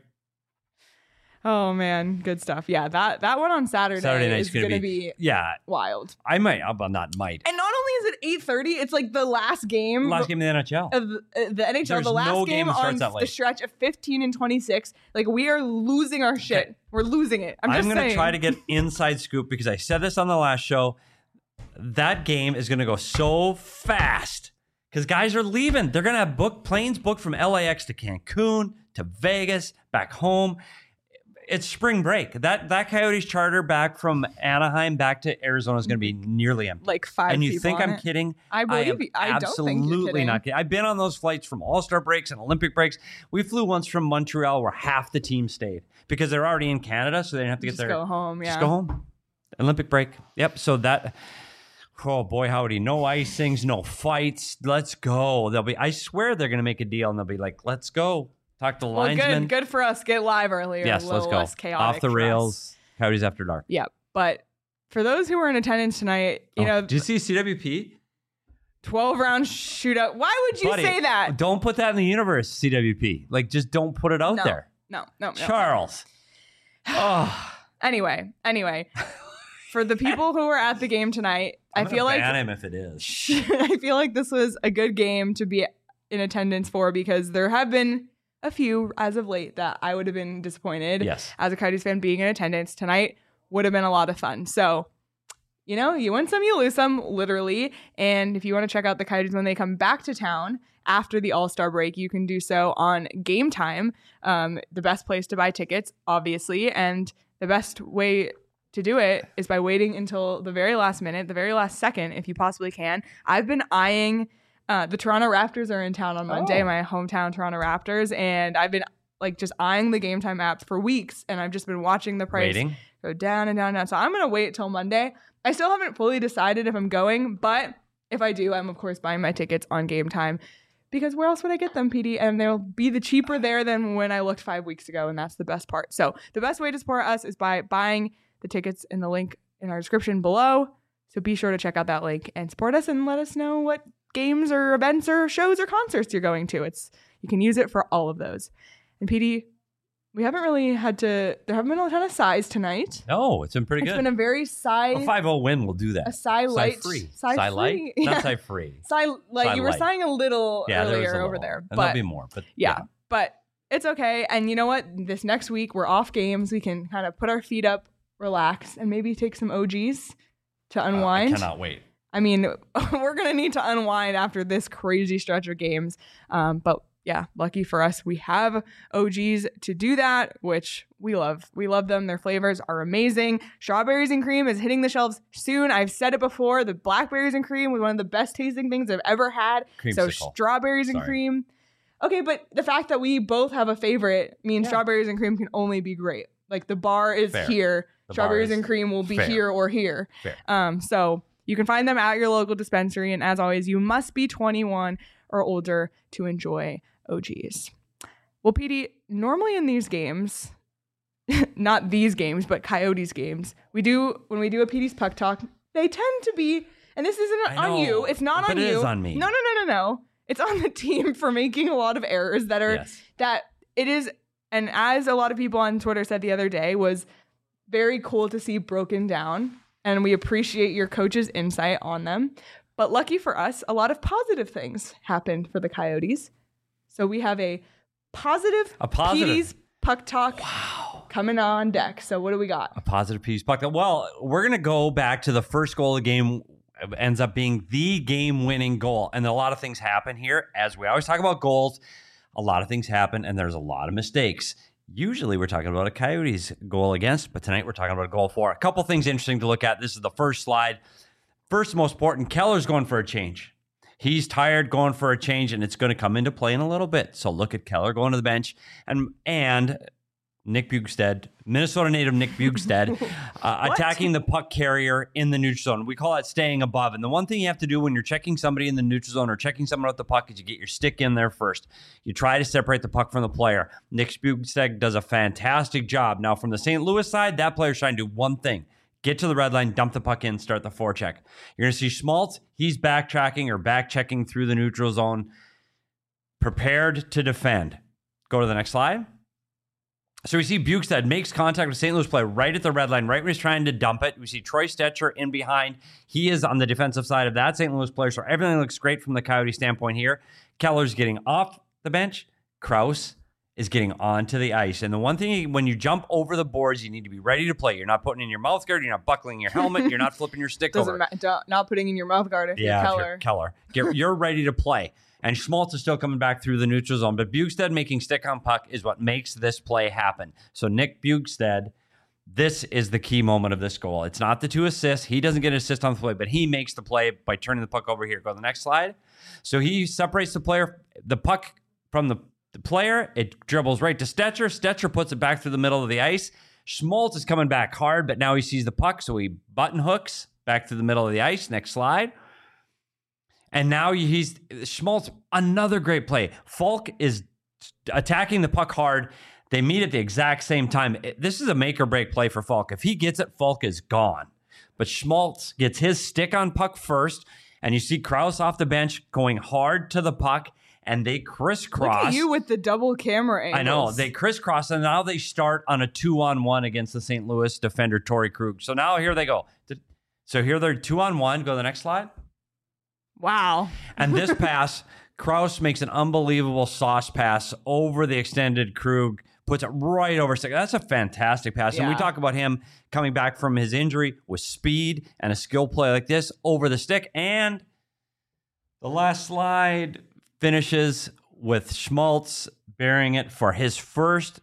Oh man, good stuff. Yeah, that that one on Saturday, Saturday night's is gonna gonna, be- be, Yeah, wild. I might. uh, Well, not might. And not only is it eight thirty, it's like the last game. Last game in the N H L. of the, uh, the N H L, There's the last no game, game that starts on that the late. stretch of fifteen and twenty-six. Like we are losing our shit. Okay. We're losing it. I'm I'm, just going to saying. try to get inside scoop because I said this on the last show. That game is going to go so fast because guys are leaving. They're going to have book planes booked from L A X to Cancun to Vegas, back home. It's spring break. That that Coyotes charter back from Anaheim back to Arizona is going to be nearly empty. like five. And you people think on I'm it. kidding? I I believe am you. I don't think you're absolutely kidding. not kidding. I've been on those flights from All-Star breaks and Olympic breaks. We flew once from Montreal where half the team stayed because they're already in Canada, so they didn't have to get Just their go home. Yeah. just go home. Olympic break. Yep. So that. Oh boy, howdy! No icings, no fights. Let's go. They'll be. I swear they're going to make a deal, and they'll be like, "Let's go." Talk to the Well, linesman. good. Good for us. Get live earlier. Yes, a let's little go. less chaotic Off the for rails. us. Coyotes After Dark. Yeah, but for those who were in attendance tonight, you Oh, know, did you see C W P? twelve round shootout. Why would you Buddy, say that? Don't put that in the universe, C W P. Like, just don't put it out No. there. No, no, no. Charles. Oh, Anyway, anyway, for the people who were at the game tonight, I'm I feel gonna like ban him if it is. I feel like this was a good game to be in attendance for because there have been a few as of late that I would have been disappointed Yes. as a Coyotes fan being in attendance. Tonight would have been a lot of fun. So, you know, you win some, you lose some, literally. And if you want to check out the Coyotes when they come back to town after the All-Star break, you can do so on Game Time, um, the best place to buy tickets, obviously. And the best way to do it is by waiting until the very last minute, the very last second, if you possibly can. I've been eyeing uh, the Toronto Raptors are in town on Monday, Oh. my hometown Toronto Raptors, and I've been like just eyeing the Game Time app for weeks, and I've just been watching the price Waiting. go down and down and down. So I'm gonna wait till Monday. I still haven't fully decided if I'm going, but if I do, I'm of course buying my tickets on Game Time. Because where else would I get them, P D? And they'll be the cheaper there than when I looked five weeks ago, and that's the best part. So the best way to support us is by buying the tickets in the link in our description below. So be sure to check out that link and support us and let us know what games or events or shows or concerts you're going to. It's you can use it for all of those. And P D, we haven't really had to, there haven't been a ton of sighs tonight. No, it's been pretty It's good. been a very sigh, A five oh win will do that. a sigh light. free. Sigh Sigh light? free. Not Yeah. sigh free. Sigh light. Sigh You were light. sighing a little Yeah, there was earlier a over little. there. And But there'll be more. But yeah, but it's okay. And you know what? This next week, we're off games. We can kind of put our feet up, relax, and maybe take some O Gs to Uh, I unwind. cannot wait. I mean, we're going to need to unwind after this crazy stretch of games. Um, but yeah, lucky for us, we have O Gs to do that, which we love. We love them. Their flavors are amazing. Strawberries and cream is hitting the shelves soon. I've said it before. The blackberries and cream was one of the best tasting things I've ever had. So Creamsicle. strawberries and Sorry. cream. Okay, but the fact that we both have a favorite means Yeah. strawberries and cream can only be great. Like the bar is Fair. here. The bar Strawberries is and cream will be fair. here or here. Fair. Um, so you can find them at your local dispensary. And as always, you must be twenty-one or older to enjoy O Gs. Well, P D, normally in these games, not these games, but Coyotes games, we do, when we do a P D's Puck Talk, they tend to be, and this isn't I on know, you. It's not but on it you. is on me. No, no, no, no, no. It's on the team for making a lot of errors that are, Yes. that it is, and as a lot of people on Twitter said the other day, was very cool to see broken down. And we appreciate your coach's insight on them. But lucky for us, a lot of positive things happened for the Coyotes. So we have a positive, A positive. P D's Puck Talk Wow. coming on deck. So what do we got? A positive piece puck. Well, we're going to go back to the first goal of the game. It ends up being the game-winning goal. And a lot of things happen here. As we always talk about goals, a lot of things happen, and there's a lot of mistakes. Usually we're talking about a Coyotes goal against, but tonight we're talking about a goal for. A couple things interesting to look at. This is the first slide. First, most important, Keller's going for a change. He's tired, going for a change, and it's going to come into play in a little bit. So look at Keller going to the bench, and and Nick Bjugstad, Minnesota native Nick Bjugstad, uh, attacking the puck carrier in the neutral zone. We call that staying above. And the one thing you have to do when you're checking somebody in the neutral zone or checking someone with the puck is you get your stick in there first. You try to separate the puck from the player. Nick Bjugstad does a fantastic job. Now, from the Saint Louis side, that player's trying to do one thing. Get to the red line, dump the puck in, start the forecheck. You're going to see Schmaltz. He's backtracking or back-checking through the neutral zone, prepared to defend. Go to the next slide. So we see Bjugstad makes contact with Saint Louis player right at the red line, right when he's trying to dump it. We see Troy Stetcher in behind. He is on the defensive side of that Saint Louis player, so everything looks great from the Coyote standpoint here. Keller's getting off the bench. Krause is getting onto the ice. And the one thing, when you jump over the boards, you need to be ready to play. You're not putting in your mouth guard. You're not buckling your helmet. You're not flipping your stick Doesn't over. matter. Not putting in your mouth guard if Yeah, you're if Keller. you're Keller. Get, you're ready to play. And Schmaltz is still coming back through the neutral zone. But Bjugstad making stick on puck is what makes this play happen. So Nick Bjugstad, this is the key moment of this goal. It's not the two assists. He doesn't get an assist on the play, but he makes the play by turning the puck over here. Go to the next slide. So he separates the player, the puck from the, the player. It dribbles right to Stetcher. Stetcher puts it back through the middle of the ice. Schmaltz is coming back hard, but now he sees the puck, so he button hooks back through the middle of the ice. Next slide. And now he's Schmaltz, another great play. Falk is attacking the puck hard. They meet at the exact same time. This is a make or break play for Falk. If he gets it, Falk is gone. But Schmaltz gets his stick on puck first, and you see Krause off the bench going hard to the puck, and they crisscross. Look at you with the double camera angles. I know. They crisscross, and now they start on a two-on-one against the Saint Louis defender, Torrey Krug. So now here they go. So here they're two-on-one. Go to the next slide. Wow. And this pass, Krause makes an unbelievable sauce pass over the extended Krug, puts it right over stick. That's a fantastic pass. And we Yeah. talk about him coming back from his injury with speed and a skill play like this over the stick. And the last slide finishes with Schmaltz bearing it for his first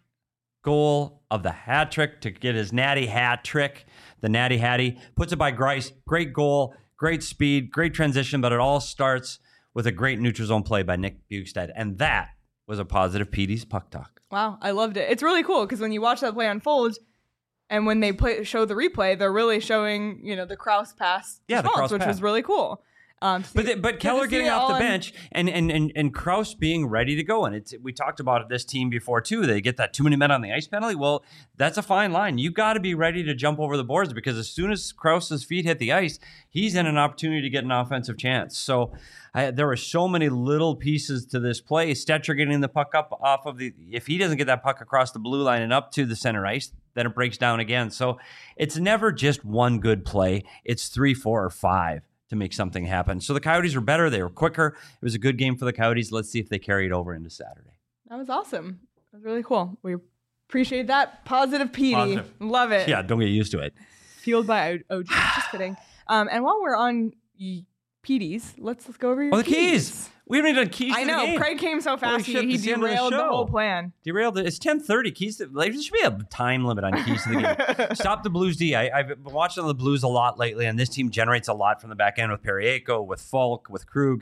goal of the hat trick to get his natty hat trick. The natty hattie puts it by Grice. Great goal, great speed, great transition, but it all starts with a great neutral zone play by Nick Bjugstad. And that was a positive P D's Puck Talk. Wow, I loved it. It's really cool because when you watch that play unfold, and when they play show the replay, they're really showing, you know, the Kraus pass, to Yeah, the Schmaltz, Kraus which pass. was really cool. Um, to But see- the, but good to Keller see getting it off all the in- bench and and and and Kraus being ready to go, and it's we talked about this team before too. They get that too many men on the ice penalty. Well, that's a fine line. You got to be ready to jump over the boards because as soon as Kraus's feet hit the ice, he's in an opportunity to get an offensive chance. So I, there were so many little pieces to this play. Stetcher getting the puck up off of the. If he doesn't get that puck across the blue line and up to the center ice, then it breaks down again. So it's never just one good play. It's three, four, or five to make something happen. So the Coyotes were better. They were quicker. It was a good game for the Coyotes. Let's see if they carry it over into Saturday. That was awesome. That was really cool. We appreciate that. Positive P D. Positive. Love it. Yeah, don't get used to it. Fueled by O G. Just kidding. Um, and while we're on y- P Ds, let's, let's go over your Oh, the keys. We haven't even done keys I to the know. game. Craig came so fast, shit, he, he it's the end of the derailed the, show. whole plan. Derailed it. It's ten thirty. Keys to, like, there should be a time limit on keys to the game. Stop the Blues D. I, I've been watching the Blues a lot lately, and this team generates a lot from the back end with Periaco, with Falk, with Krug.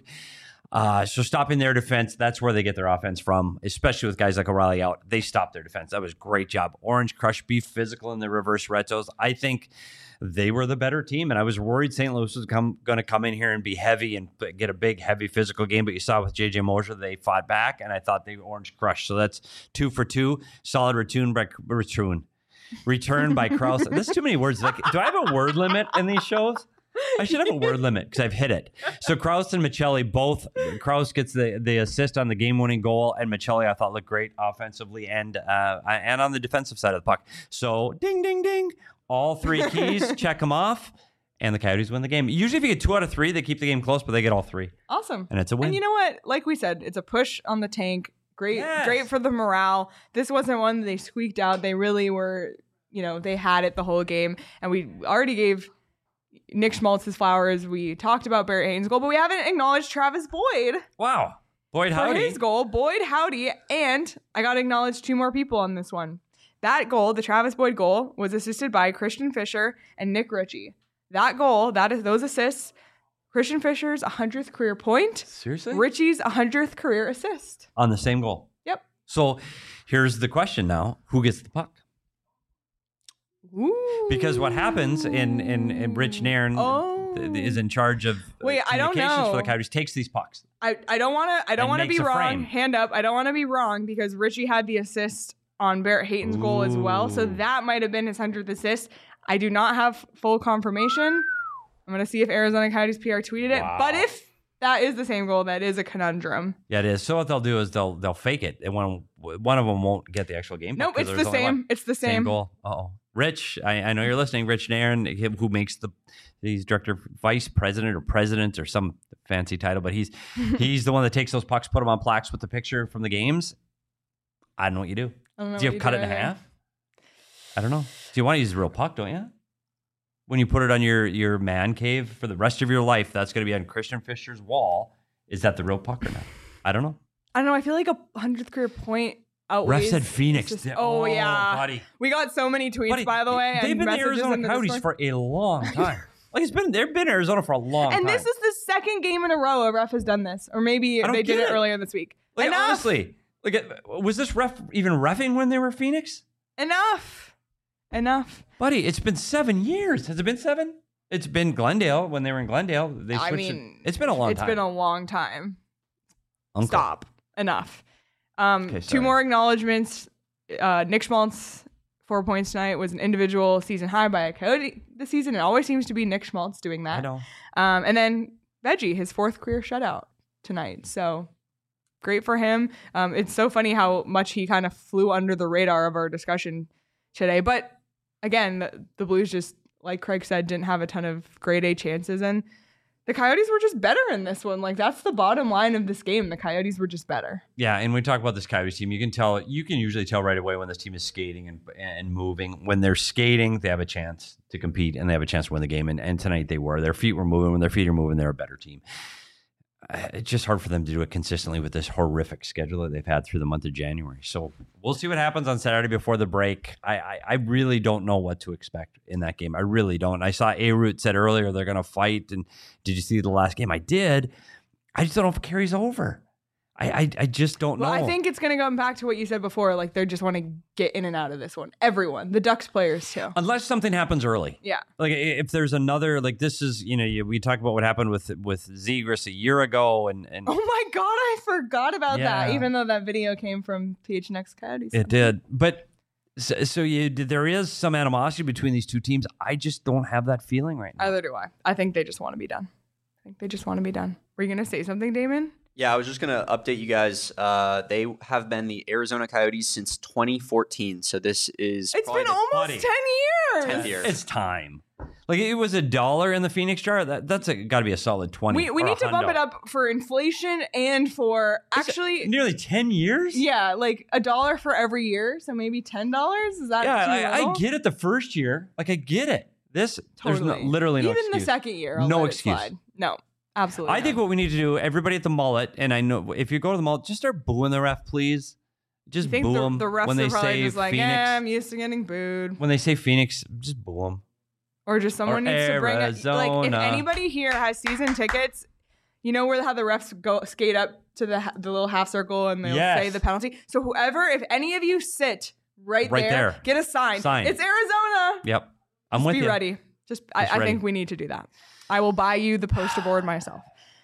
Uh, so stopping their defense, that's where they get their offense from, especially with guys like O'Reilly out. They stopped their defense. That was a great job. Orange Crush, be physical in the reverse retos. I think they were the better team, and I was worried Saint Louis was come, going to come in here and be heavy and get a big, heavy physical game, but you saw with J J Mosier, they fought back, and I thought they Orange Crush. So that's two for two. Solid return by return. Return by Kraus. There's too many words. Like, do I have a word limit in these shows? I should have a word limit because I've hit it. So Kraus and Michelli both. Kraus gets the, the assist on the game-winning goal, and Michelli I thought looked great offensively and uh, and on the defensive side of the puck. So ding, ding, ding. All three keys, check them off, and the Coyotes win the game. Usually, if you get two out of three, they keep the game close, but they get all three, Awesome. and it's a win. And you know what? Like we said, it's a push on the tank. Great, Yes. great for the morale. This wasn't one they squeaked out. They really were, you know, they had it the whole game. And we already gave Nick Schmaltz his flowers. We talked about Barrett Hayton's goal, but we haven't acknowledged Travis Boyd Wow, Boyd for Howdy. his goal. Boyd Howdy. And I got to acknowledge two more people on this one. That goal, the Travis Boyd goal, was assisted by Christian Fisher and Nick Ritchie. That goal, that is those assists, Christian Fisher's one hundredth career point, Seriously? Ritchie's one hundredth career assist. On the same goal. Yep. So here's the question now: who gets the puck? Ooh. Because what happens in in, in Rich Nairn Oh. th- is in charge of uh, Wait, I don't communications for the know. Coyotes, takes these pucks. I, I don't want to I don't And want to makes be a wrong. frame. Hand up. I don't want to be wrong because Ritchie had the assist on Barrett Hayton's goal as well. So Ooh. that might have been his one hundredth assist. I do not have full confirmation. I'm going to see if Arizona Coyotes P R tweeted it. Wow. But if that is the same goal, that is a conundrum. Yeah, it is. So what they'll do is they'll they'll fake it, and one one of them won't get the actual game. Nope, puck it's 'cause the there's only same. one. It's the Same same. goal. Uh-oh. Rich, I, I know you're listening. Rich Nairn, him who makes the he's director, vice president, or president, or some fancy title, but he's he's the one that takes those pucks, put them on plaques with the picture from the games. I don't know what you do. I don't know Do you what have cut it in either. half? I don't know. Do you want to use a real puck, don't you? When you put it on your, your man cave for the rest of your life, that's going to be on Christian Fisher's wall. Is that the real puck or not? I don't know. I don't know. I feel like a one hundredth carear point Ref outweighs. said Phoenix. it's just- Oh, oh, yeah. buddy. We got so many tweets, Buddy, by the way. They've and been the messages Arizona in the Coyotes Discord. for a long time. Like it's been they've been Arizona for a long And time. this is the second game in a row a ref has done this. Or maybe I don't they did get it it. earlier this week. like, Enough. honestly, like was this ref even reffing when they were Phoenix? Enough. Enough. Buddy, it's been seven years. Has it been seven? It's been Glendale when they were in Glendale. They I switched mean, it. It's been a long It's time. been a long time. Uncle. Stop. Enough. Um, Okay, two sorry. more acknowledgments. Uh, Nick Schmaltz, four points tonight, was an individual season high by a Coyote this season. It always seems to be Nick Schmaltz doing that. I know. Um, and then Veggie, his fourth career shutout tonight. So great for him. Um, it's so funny how much he kind of flew under the radar of our discussion today. But again, the, the Blues just, like Craig said, didn't have a ton of grade A chances. And The Coyotes were just better in this one. Like, that's the bottom line of this game. The Coyotes were just better. Yeah, and we talk about this Coyotes team. You can tell. You can usually tell right away when this team is skating and and moving. When they're skating, they have a chance to compete and they have a chance to win the game. And, and tonight they were. Their feet were moving. When their feet are moving, they're a better team. It's just hard for them to do it consistently with this horrific schedule that they've had through the month of January. So we'll see what happens on Saturday before the break. I I, I really don't know what to expect in that game. I really don't. I saw A-Root said earlier they're going to fight. And did you see the last game? I did. I just don't know if it carries over. I I, I just don't well, know. I think it's going to go back to what you said before. Like, they just want to get in and out of this one. Everyone. The Ducks players, too. Unless something happens early. Yeah. Like, if there's another, like, this is, you know, you, we talked about what happened with with Zegras a year ago. And, and Oh, my God. I forgot about Yeah. that, even though that video came from P H N X Coyotes. it did. But so, so you, there is some animosity between these two teams. I just don't have that feeling right now. Either do I. I think they just want to be done. I think they just want to be done. Were you going to say something, Damon? Yeah, I was just going to update you guys. Uh, they have been the Arizona Coyotes since twenty fourteen. So this is It's probably been the- almost buddy. ten years. tenth year. It's time. Like, it was a dollar in the Phoenix jar. That that's got to be a solid twenty. We, we or need to bump hundo. it up for inflation and for actually, Nearly ten years. yeah, like a dollar for every year. So maybe ten dollars. Is that Yeah, too I, I little? get it. The first year, like, I get it. This there's no, Totally. literally no Even excuse. the second year, I'll No let it excuse. slide. No, absolutely. I think not. what we need to do, everybody at the mullet, and I know if you go to the mullet, just start booing the ref, please. Just I think boo the, them the refs when are they probably say just like, Phoenix. yeah, I'm used to getting booed. When they say Phoenix, just boo them. Or just someone Or needs to bring it. Like, if Arizona. anybody here has season tickets, you know where how the refs go skate up to the ha- the little half circle and they'll Yes. say the penalty. So whoever, if any of you sit right, Right there, there. get a sign. Sign. It's Arizona. Yep, I'm Just with be you. ready. Just, I, Just I ready. think we need to do that. I will buy you the poster board myself.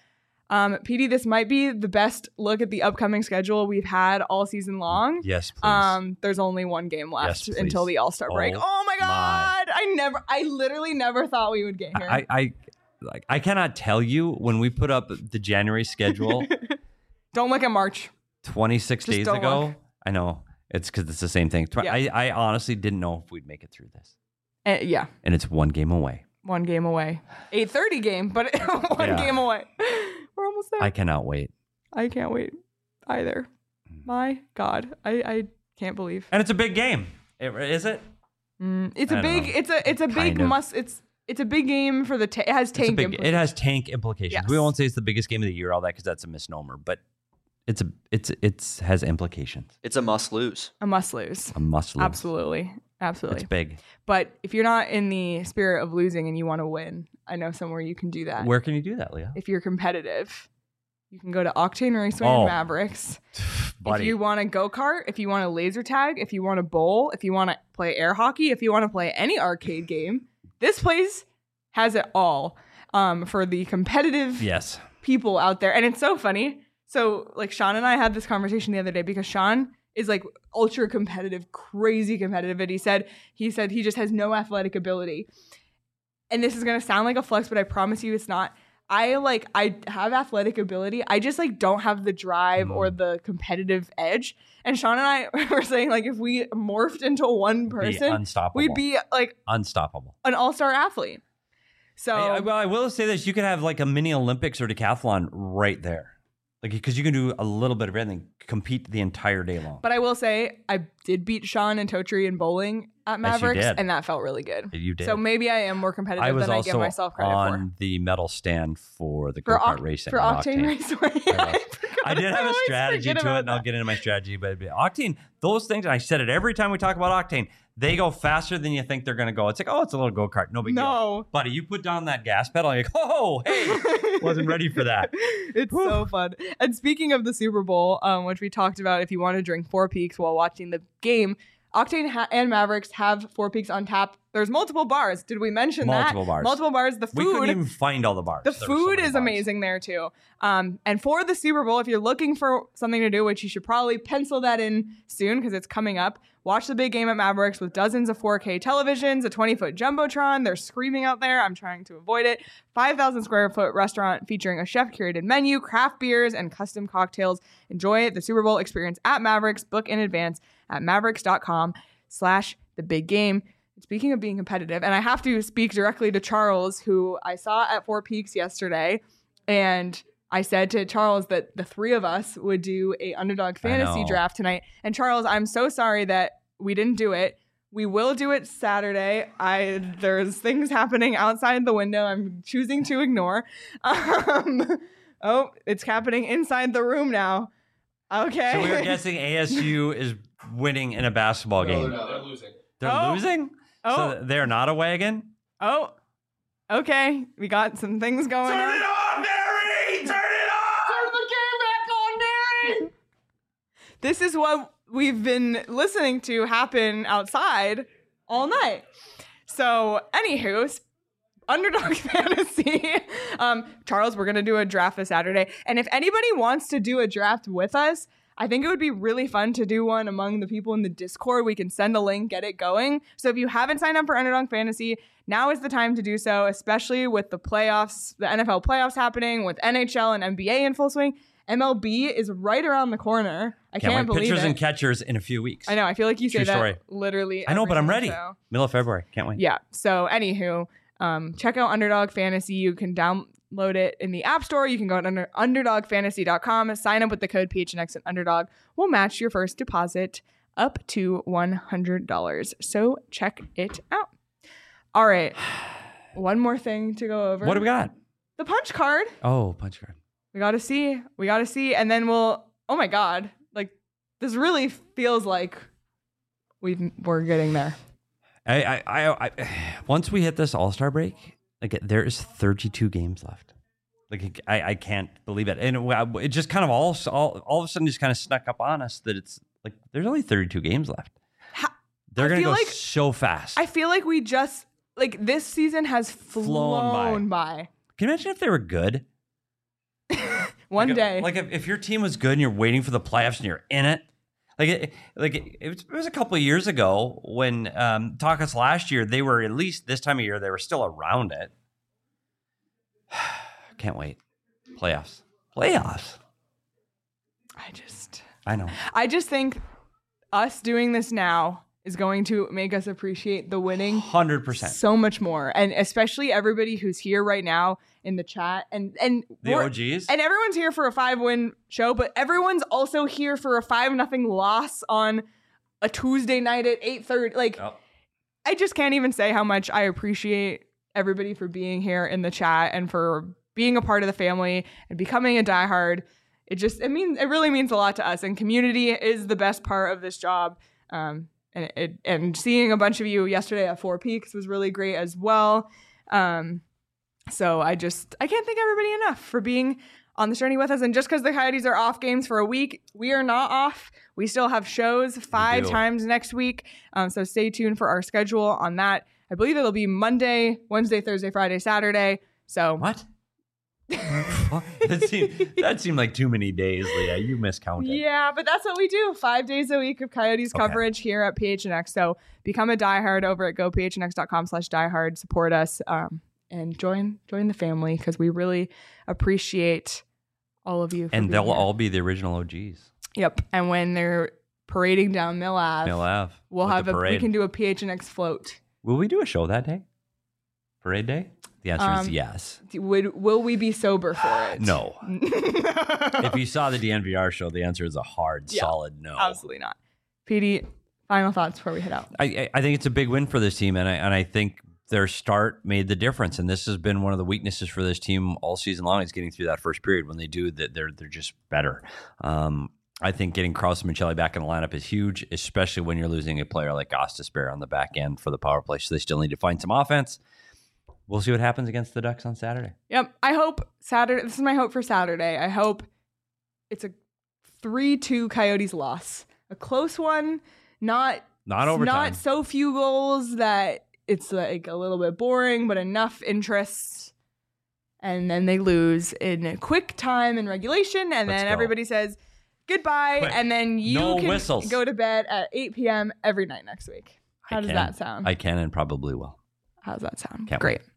Um, P D, this might be the best look at the upcoming schedule we've had all season long. Yes, please. Um, there's only one game left Yes, until please. the All Star break. Oh Oh my my. God! I never, I literally never thought we would get here. I, I, like, I cannot tell you when we put up the January schedule Don't look at March. twenty-six Just days don't ago. look. I know it's because it's the same thing. Tw- Yeah. I, I honestly didn't know if we'd make it through this, Uh, yeah, and it's one game away. one game away. eight thirty game, but one Yeah. game away. We're almost there. I I, cannot wait, can't wait either. My God, I, I can't believe. and it's a big game. It, is it? Mm, it's I a don't big. know. It's a. It's a big Kind of. must. It's. It's a big game for the. Ta- it has It's a tank. big, it implications. has tank implications. Yes. We won't say it's the biggest game of the year, all that, because that's a misnomer. But it's a it's it's has implications. It's a must lose. a must lose. A must lose. Absolutely, absolutely. It's big. But if you're not in the spirit of losing and you want to win, I know somewhere you can do that. Where can you do that, Leah? If you're competitive, you can go to Octane Raceway Oh. and Mavericks. Buddy. If you want to go kart, if you want to laser tag, if you want to bowl, if you want to play air hockey, if you want to play any arcade game, this place has it all um, for the competitive yes. people out there. And it's so funny. So like Sean and I had this conversation the other day because Sean is like ultra competitive, crazy competitive. And he said, he said he just has no athletic ability. And this is going to sound like a flex, but I promise you it's not. I like, I have athletic ability. I just like don't have the drive Mm. or the competitive edge. And Sean and I were saying like, if we morphed into one Be person, unstoppable. we'd be like unstoppable. an all-star athlete. So I, I- well, I will say this: you could have like a mini Olympics or decathlon right there, like because you can do a little bit of everything, compete the entire day long. But I will say, I did beat Sean and Totri in bowling at Yes, you Mavericks, did. and that felt really good. You did. So maybe I am more competitive I was than I also give myself credit on for. the medal stand for the go For, kart Oc- racing. for at Octane, Raceway. I was. forgot. I did have a always strategy forget to it, about and I'll that. get into my strategy. But Octane, those things, and I said it every time we talk about Octane, they go faster than you think they're going to go. It's like, oh, it's a little go kart, no big deal. No. Buddy, you put down that gas pedal, you're like, oh, hey, wasn't ready for that. It's so fun. And speaking of the Super Bowl, um, which we talked about, if you want to drink Four Peaks while watching the game, Octane ha- and Mavericks have Four Peaks on tap. There's multiple bars. Did we mention Multiple that? bars. Multiple bars. The We couldn't food. even find all the bars. The There were so food many is bars. amazing there too. Um, and for the Super Bowl, if you're looking for something to do, which you should probably pencil that in soon because it's coming up, watch the big game at Mavericks with dozens of four K televisions, a twenty foot Jumbotron. They're screaming out there. I'm trying to avoid it. five thousand square foot restaurant featuring a chef curated menu, craft beers, and custom cocktails. Enjoy the Super Bowl experience at Mavericks. Book in advance at mavericks.com slash the big game. speaking of being competitive, and I have to speak directly to Charles, who I saw at Four Peaks yesterday, and I said to Charles that the three of us would do a underdog fantasy draft tonight. And Charles, I'm so sorry that we didn't do it. We will do it Saturday. I there's things happening outside the window I'm choosing to ignore. Um, oh, it's happening inside the room now. Okay. So we were guessing A S U is winning in a basketball No, game. they're not. They're losing. They're Oh. losing? Oh. So they're not a wagon? Oh, okay. We got some things going on. on, Mary! Turn it on! Turn the game back on, Mary! This is what we've been listening to happen outside all night. So, anywho, Underdog Fantasy. Um, Charles, we're going to do a draft this Saturday. And if anybody wants to do a draft with us, I think it would be really fun to do one among the people in the Discord. We can send a link, get it going. So if you haven't signed up for Underdog Fantasy, now is the time to do so, especially with the playoffs, the N F L playoffs happening, with N H L and N B A in full swing. M L B is right around the corner. I Can't, can't, wait. believe Pitchers it. and catchers in a few weeks. I know. I feel like you say True that story. literally. I know, every but I'm single ready. show. Middle of February. Can't wait. Yeah. So, anywho, um, check out Underdog Fantasy. You can download it in the App Store. You can go to under, underdog fantasy dot com, sign up with the code P H N X and Underdog. We'll match your first deposit up to one hundred dollars. So, check it out. All right. One more thing to go over. What do we got? The punch card. Oh, punch card. We got to see. We got to see. And then we'll, oh my God. Like, this really feels like we've, we're getting there. I, I, I, I, once we hit this All-Star break, like there is thirty-two games left. Like I, I can't believe it, and it, it just kind of all, all, all of a sudden just kind of snuck up on us that it's like there's only thirty-two games left. Ha- They're I gonna feel go like- so fast. I feel like we just, like, this season has flown, Flown by. Can you imagine if they were good? One Like, day. like if, if your team was good and you're waiting for the playoffs and you're in it. Like it, like it, it, was, it was a couple of years ago when um, Tacos last year, they were at least this time of year, they were still around it. Can't wait. Playoffs. Playoffs. I just, I know. I just think us doing this now is going to make us appreciate the winning one hundred percent. so much more. And especially everybody who's here right now in the chat. And, and, The we're- O Gs. and everyone's here for a five win show, but everyone's also here for a five nothing loss on a Tuesday night at eight thirty. Like, Oh, I just can't even say how much I appreciate everybody for being here in the chat and for being a part of the family and becoming a diehard. It just, it means, it really means a lot to us. And community is the best part of this job. Um, and it, and seeing a bunch of you yesterday at Four Peaks was really great as well. Um, so I just, I can't thank everybody enough for being on this journey with us. And just because the Coyotes are off games for a week, we are not off. We still have shows five do. times next week. Um, so stay tuned for our schedule on that. I believe it'll be Monday, Wednesday, Thursday, Friday, Saturday. So what? What? that, seemed, that seemed like too many days, Leah. You miscounted. yeah, but that's what we do. Five days a week of Coyotes Okay. coverage here at P H N X. So become a diehard over at go p h n x dot com slash diehard. Support us um, and join join the family because we really appreciate all of you. For And being they'll here. all be the original O Gs. Yep. And when they're parading down Mill Ave, Mill Ave. we'll with have the a we parade. can do a P H N X float. Will we do a show that day? Parade day? The answer is Um, yes. Would will we be sober for it? No. If you saw the D N V R show, the answer is a hard, Yeah, solid no. Absolutely not. P D, final thoughts before we head out. I, I I think it's a big win for this team, and I and I think their start made the difference. And this has been one of the weaknesses for this team all season long is getting through that first period. When they do that, they're they're just better. Um, I think getting Krause and Michelli back in the lineup is huge, especially when you're losing a player like Gostisbehere on the back end for the power play. So they still need to find some offense. We'll see what happens against the Ducks on Saturday. Yep. I hope Saturday. This is my hope for Saturday. I hope it's a three two Coyotes loss. A close one. Not Not overtime. Not so few goals that it's like a little bit boring, but enough interest. And then they lose in a quick time in regulation, and Let's then go. everybody says goodbye, Quick. and then you No can whistles. go to bed at eight p.m. every night next week. How I does can. that sound? I can and probably will. How does that sound? Can't Great. wait.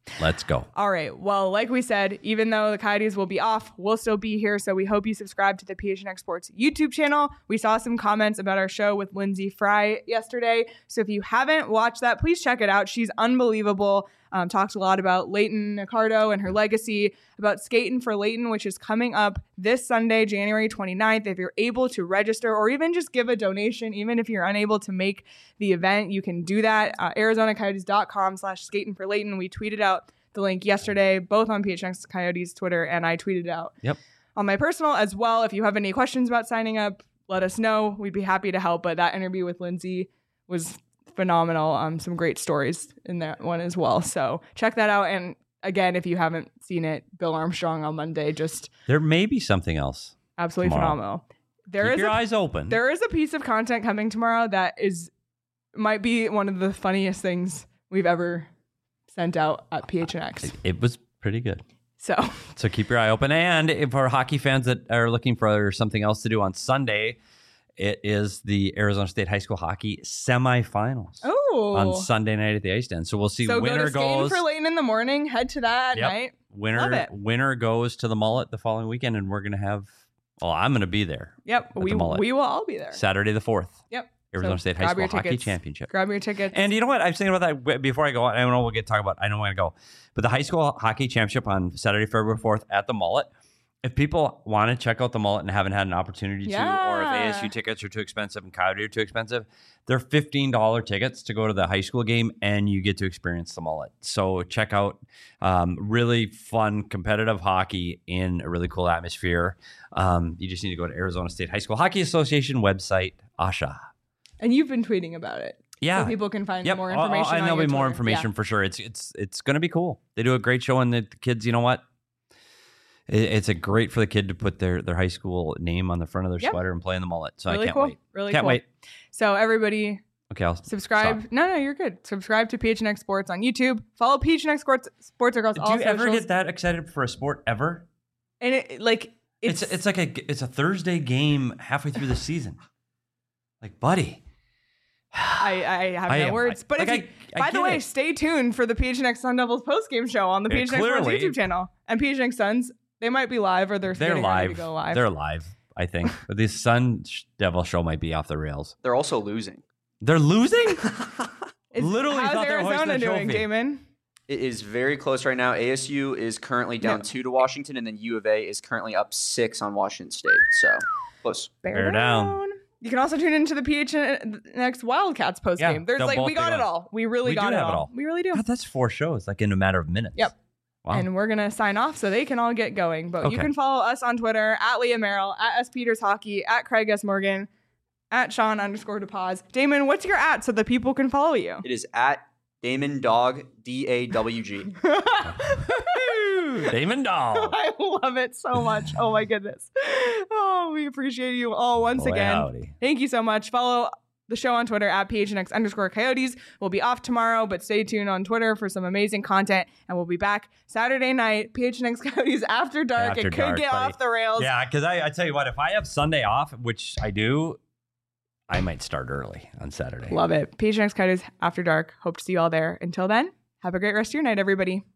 Let's go. All right. Well, like we said, even though the Coyotes will be off, we'll still be here. So we hope you subscribe to the P H N X Sports YouTube channel. We saw some comments about our show with Lindsay Fry yesterday. So if you haven't watched that, please check it out. She's unbelievable. Um, talks a lot about Leighton Ricardo and her legacy, about Skating for Leighton, which is coming up this Sunday, January twenty-ninth. If you're able to register or even just give a donation, even if you're unable to make the event, you can do that. Uh, Arizona Coyotes dot com slash Skating for Leighton. We tweeted out the link yesterday, both on P H N X Coyotes Twitter, and I tweeted out Yep. on my personal as well. If you have any questions about signing up, let us know. We'd be happy to help. But that interview with Lindsay was phenomenal. Um, some great stories in that one as well. So check that out. And again, if you haven't seen it, Bill Armstrong on Monday, just There may be something else. absolutely Tomorrow. phenomenal. There Keep is your a, eyes open. there is a piece of content coming tomorrow that is might be one of the funniest things we've ever sent out at P H N X. It was pretty good. So So keep your eye open. And if for hockey fans that are looking for something else to do on Sunday, it is the Arizona State High School Hockey semifinals oh, on Sunday night at the Ice Den. So we'll see so winner go to Skating goes. for Leighton in the morning. Head to that at Yep. night. Love Winner it. winner goes to the Mullet the following weekend, and we're gonna have. Well, I'm gonna be there Yep, the we Mullet. we will all be there. Saturday the fourth. Yep. Arizona So State High grab School your Hockey tickets. Championship. Grab your tickets. And you know what? I was thinking about that w- before I go. I don't know. We'll get to talk about. I know I'm going to go, but the high school hockey championship on Saturday, February fourth at the Mullet. If people want to check out the Mullet and haven't had an opportunity to, or if A S U Yeah. tickets are too expensive and Coyote are too expensive, they're fifteen dollars tickets to go to the high school game, and you get to experience the Mullet. So check out um, really fun, competitive hockey in a really cool atmosphere. Um, you just need to go to Arizona State High School Hockey Association website, A S H A. And you've been tweeting about it. Yeah. So people can find Yep. more I'll- I'll- information. and on there'll your be more Twitter. information Yeah. for sure. It's it's it's going to be cool. They do a great show, and the, the kids, you know what? It, it's a great for the kid to put their their high school name on the front of their Yep. sweater and play in the Mullet. So Really I can't cool. wait. Really Can't cool. wait. So everybody Okay, I'll subscribe. stop. No, no, you're good. Subscribe to P H N X Sports on YouTube. Follow P H N X Sports Sports across Do all you ever socials. get that excited for a sport ever? And it like It's it's it's, like a it's a Thursday game halfway through the season. Like, buddy. I, I have I no am- words. But like, if you, I- I by the get way, it. stay tuned for the P H N X Sun Devils postgame show on the Yeah, P H N X Sports clearly. YouTube channel. And P H N X Suns, they might be live or they're They're getting ready live. to go live. They're live, I think. But this Sun Devil show might be off the rails. They're also losing. They're losing? Is- literally how's thought they were hoisting Arizona the doing, trophy. Damon? It is very close right now. A S U is currently down No. two to Washington, and then U of A is currently up six on Washington State. So close. Bear, Bear down. down. You can also tune into the P H N X Wildcats postgame. Yeah, There's they'll like both we be got on. it all. We really We got do it, have all. it all. We really do. God, that's four shows, like in a matter of minutes. Yep. Wow. And we're gonna sign off so they can all get going. But you Okay. can follow us on Twitter at Leah Merrill, at S Peters Hockey, at Craig S Morgan, at Sean underscore DePaz. Damon, what's your at so the people can follow you? It is at Damon Dog D A W G. Damon Dahl. I love it so much. Oh my goodness. Oh, we appreciate you all once Boy, again. howdy. Thank you so much. Follow the show on Twitter at P H N X underscore Coyotes. We'll be off tomorrow, but stay tuned on Twitter for some amazing content. And we'll be back Saturday night, P H N X Coyotes After Dark. After it could dark, get buddy. off the rails. Yeah, because I, I tell you what, if I have Sunday off, which I do, I might start early on Saturday. Love it. P H N X Coyotes After Dark. Hope to see you all there. Until then, have a great rest of your night, everybody.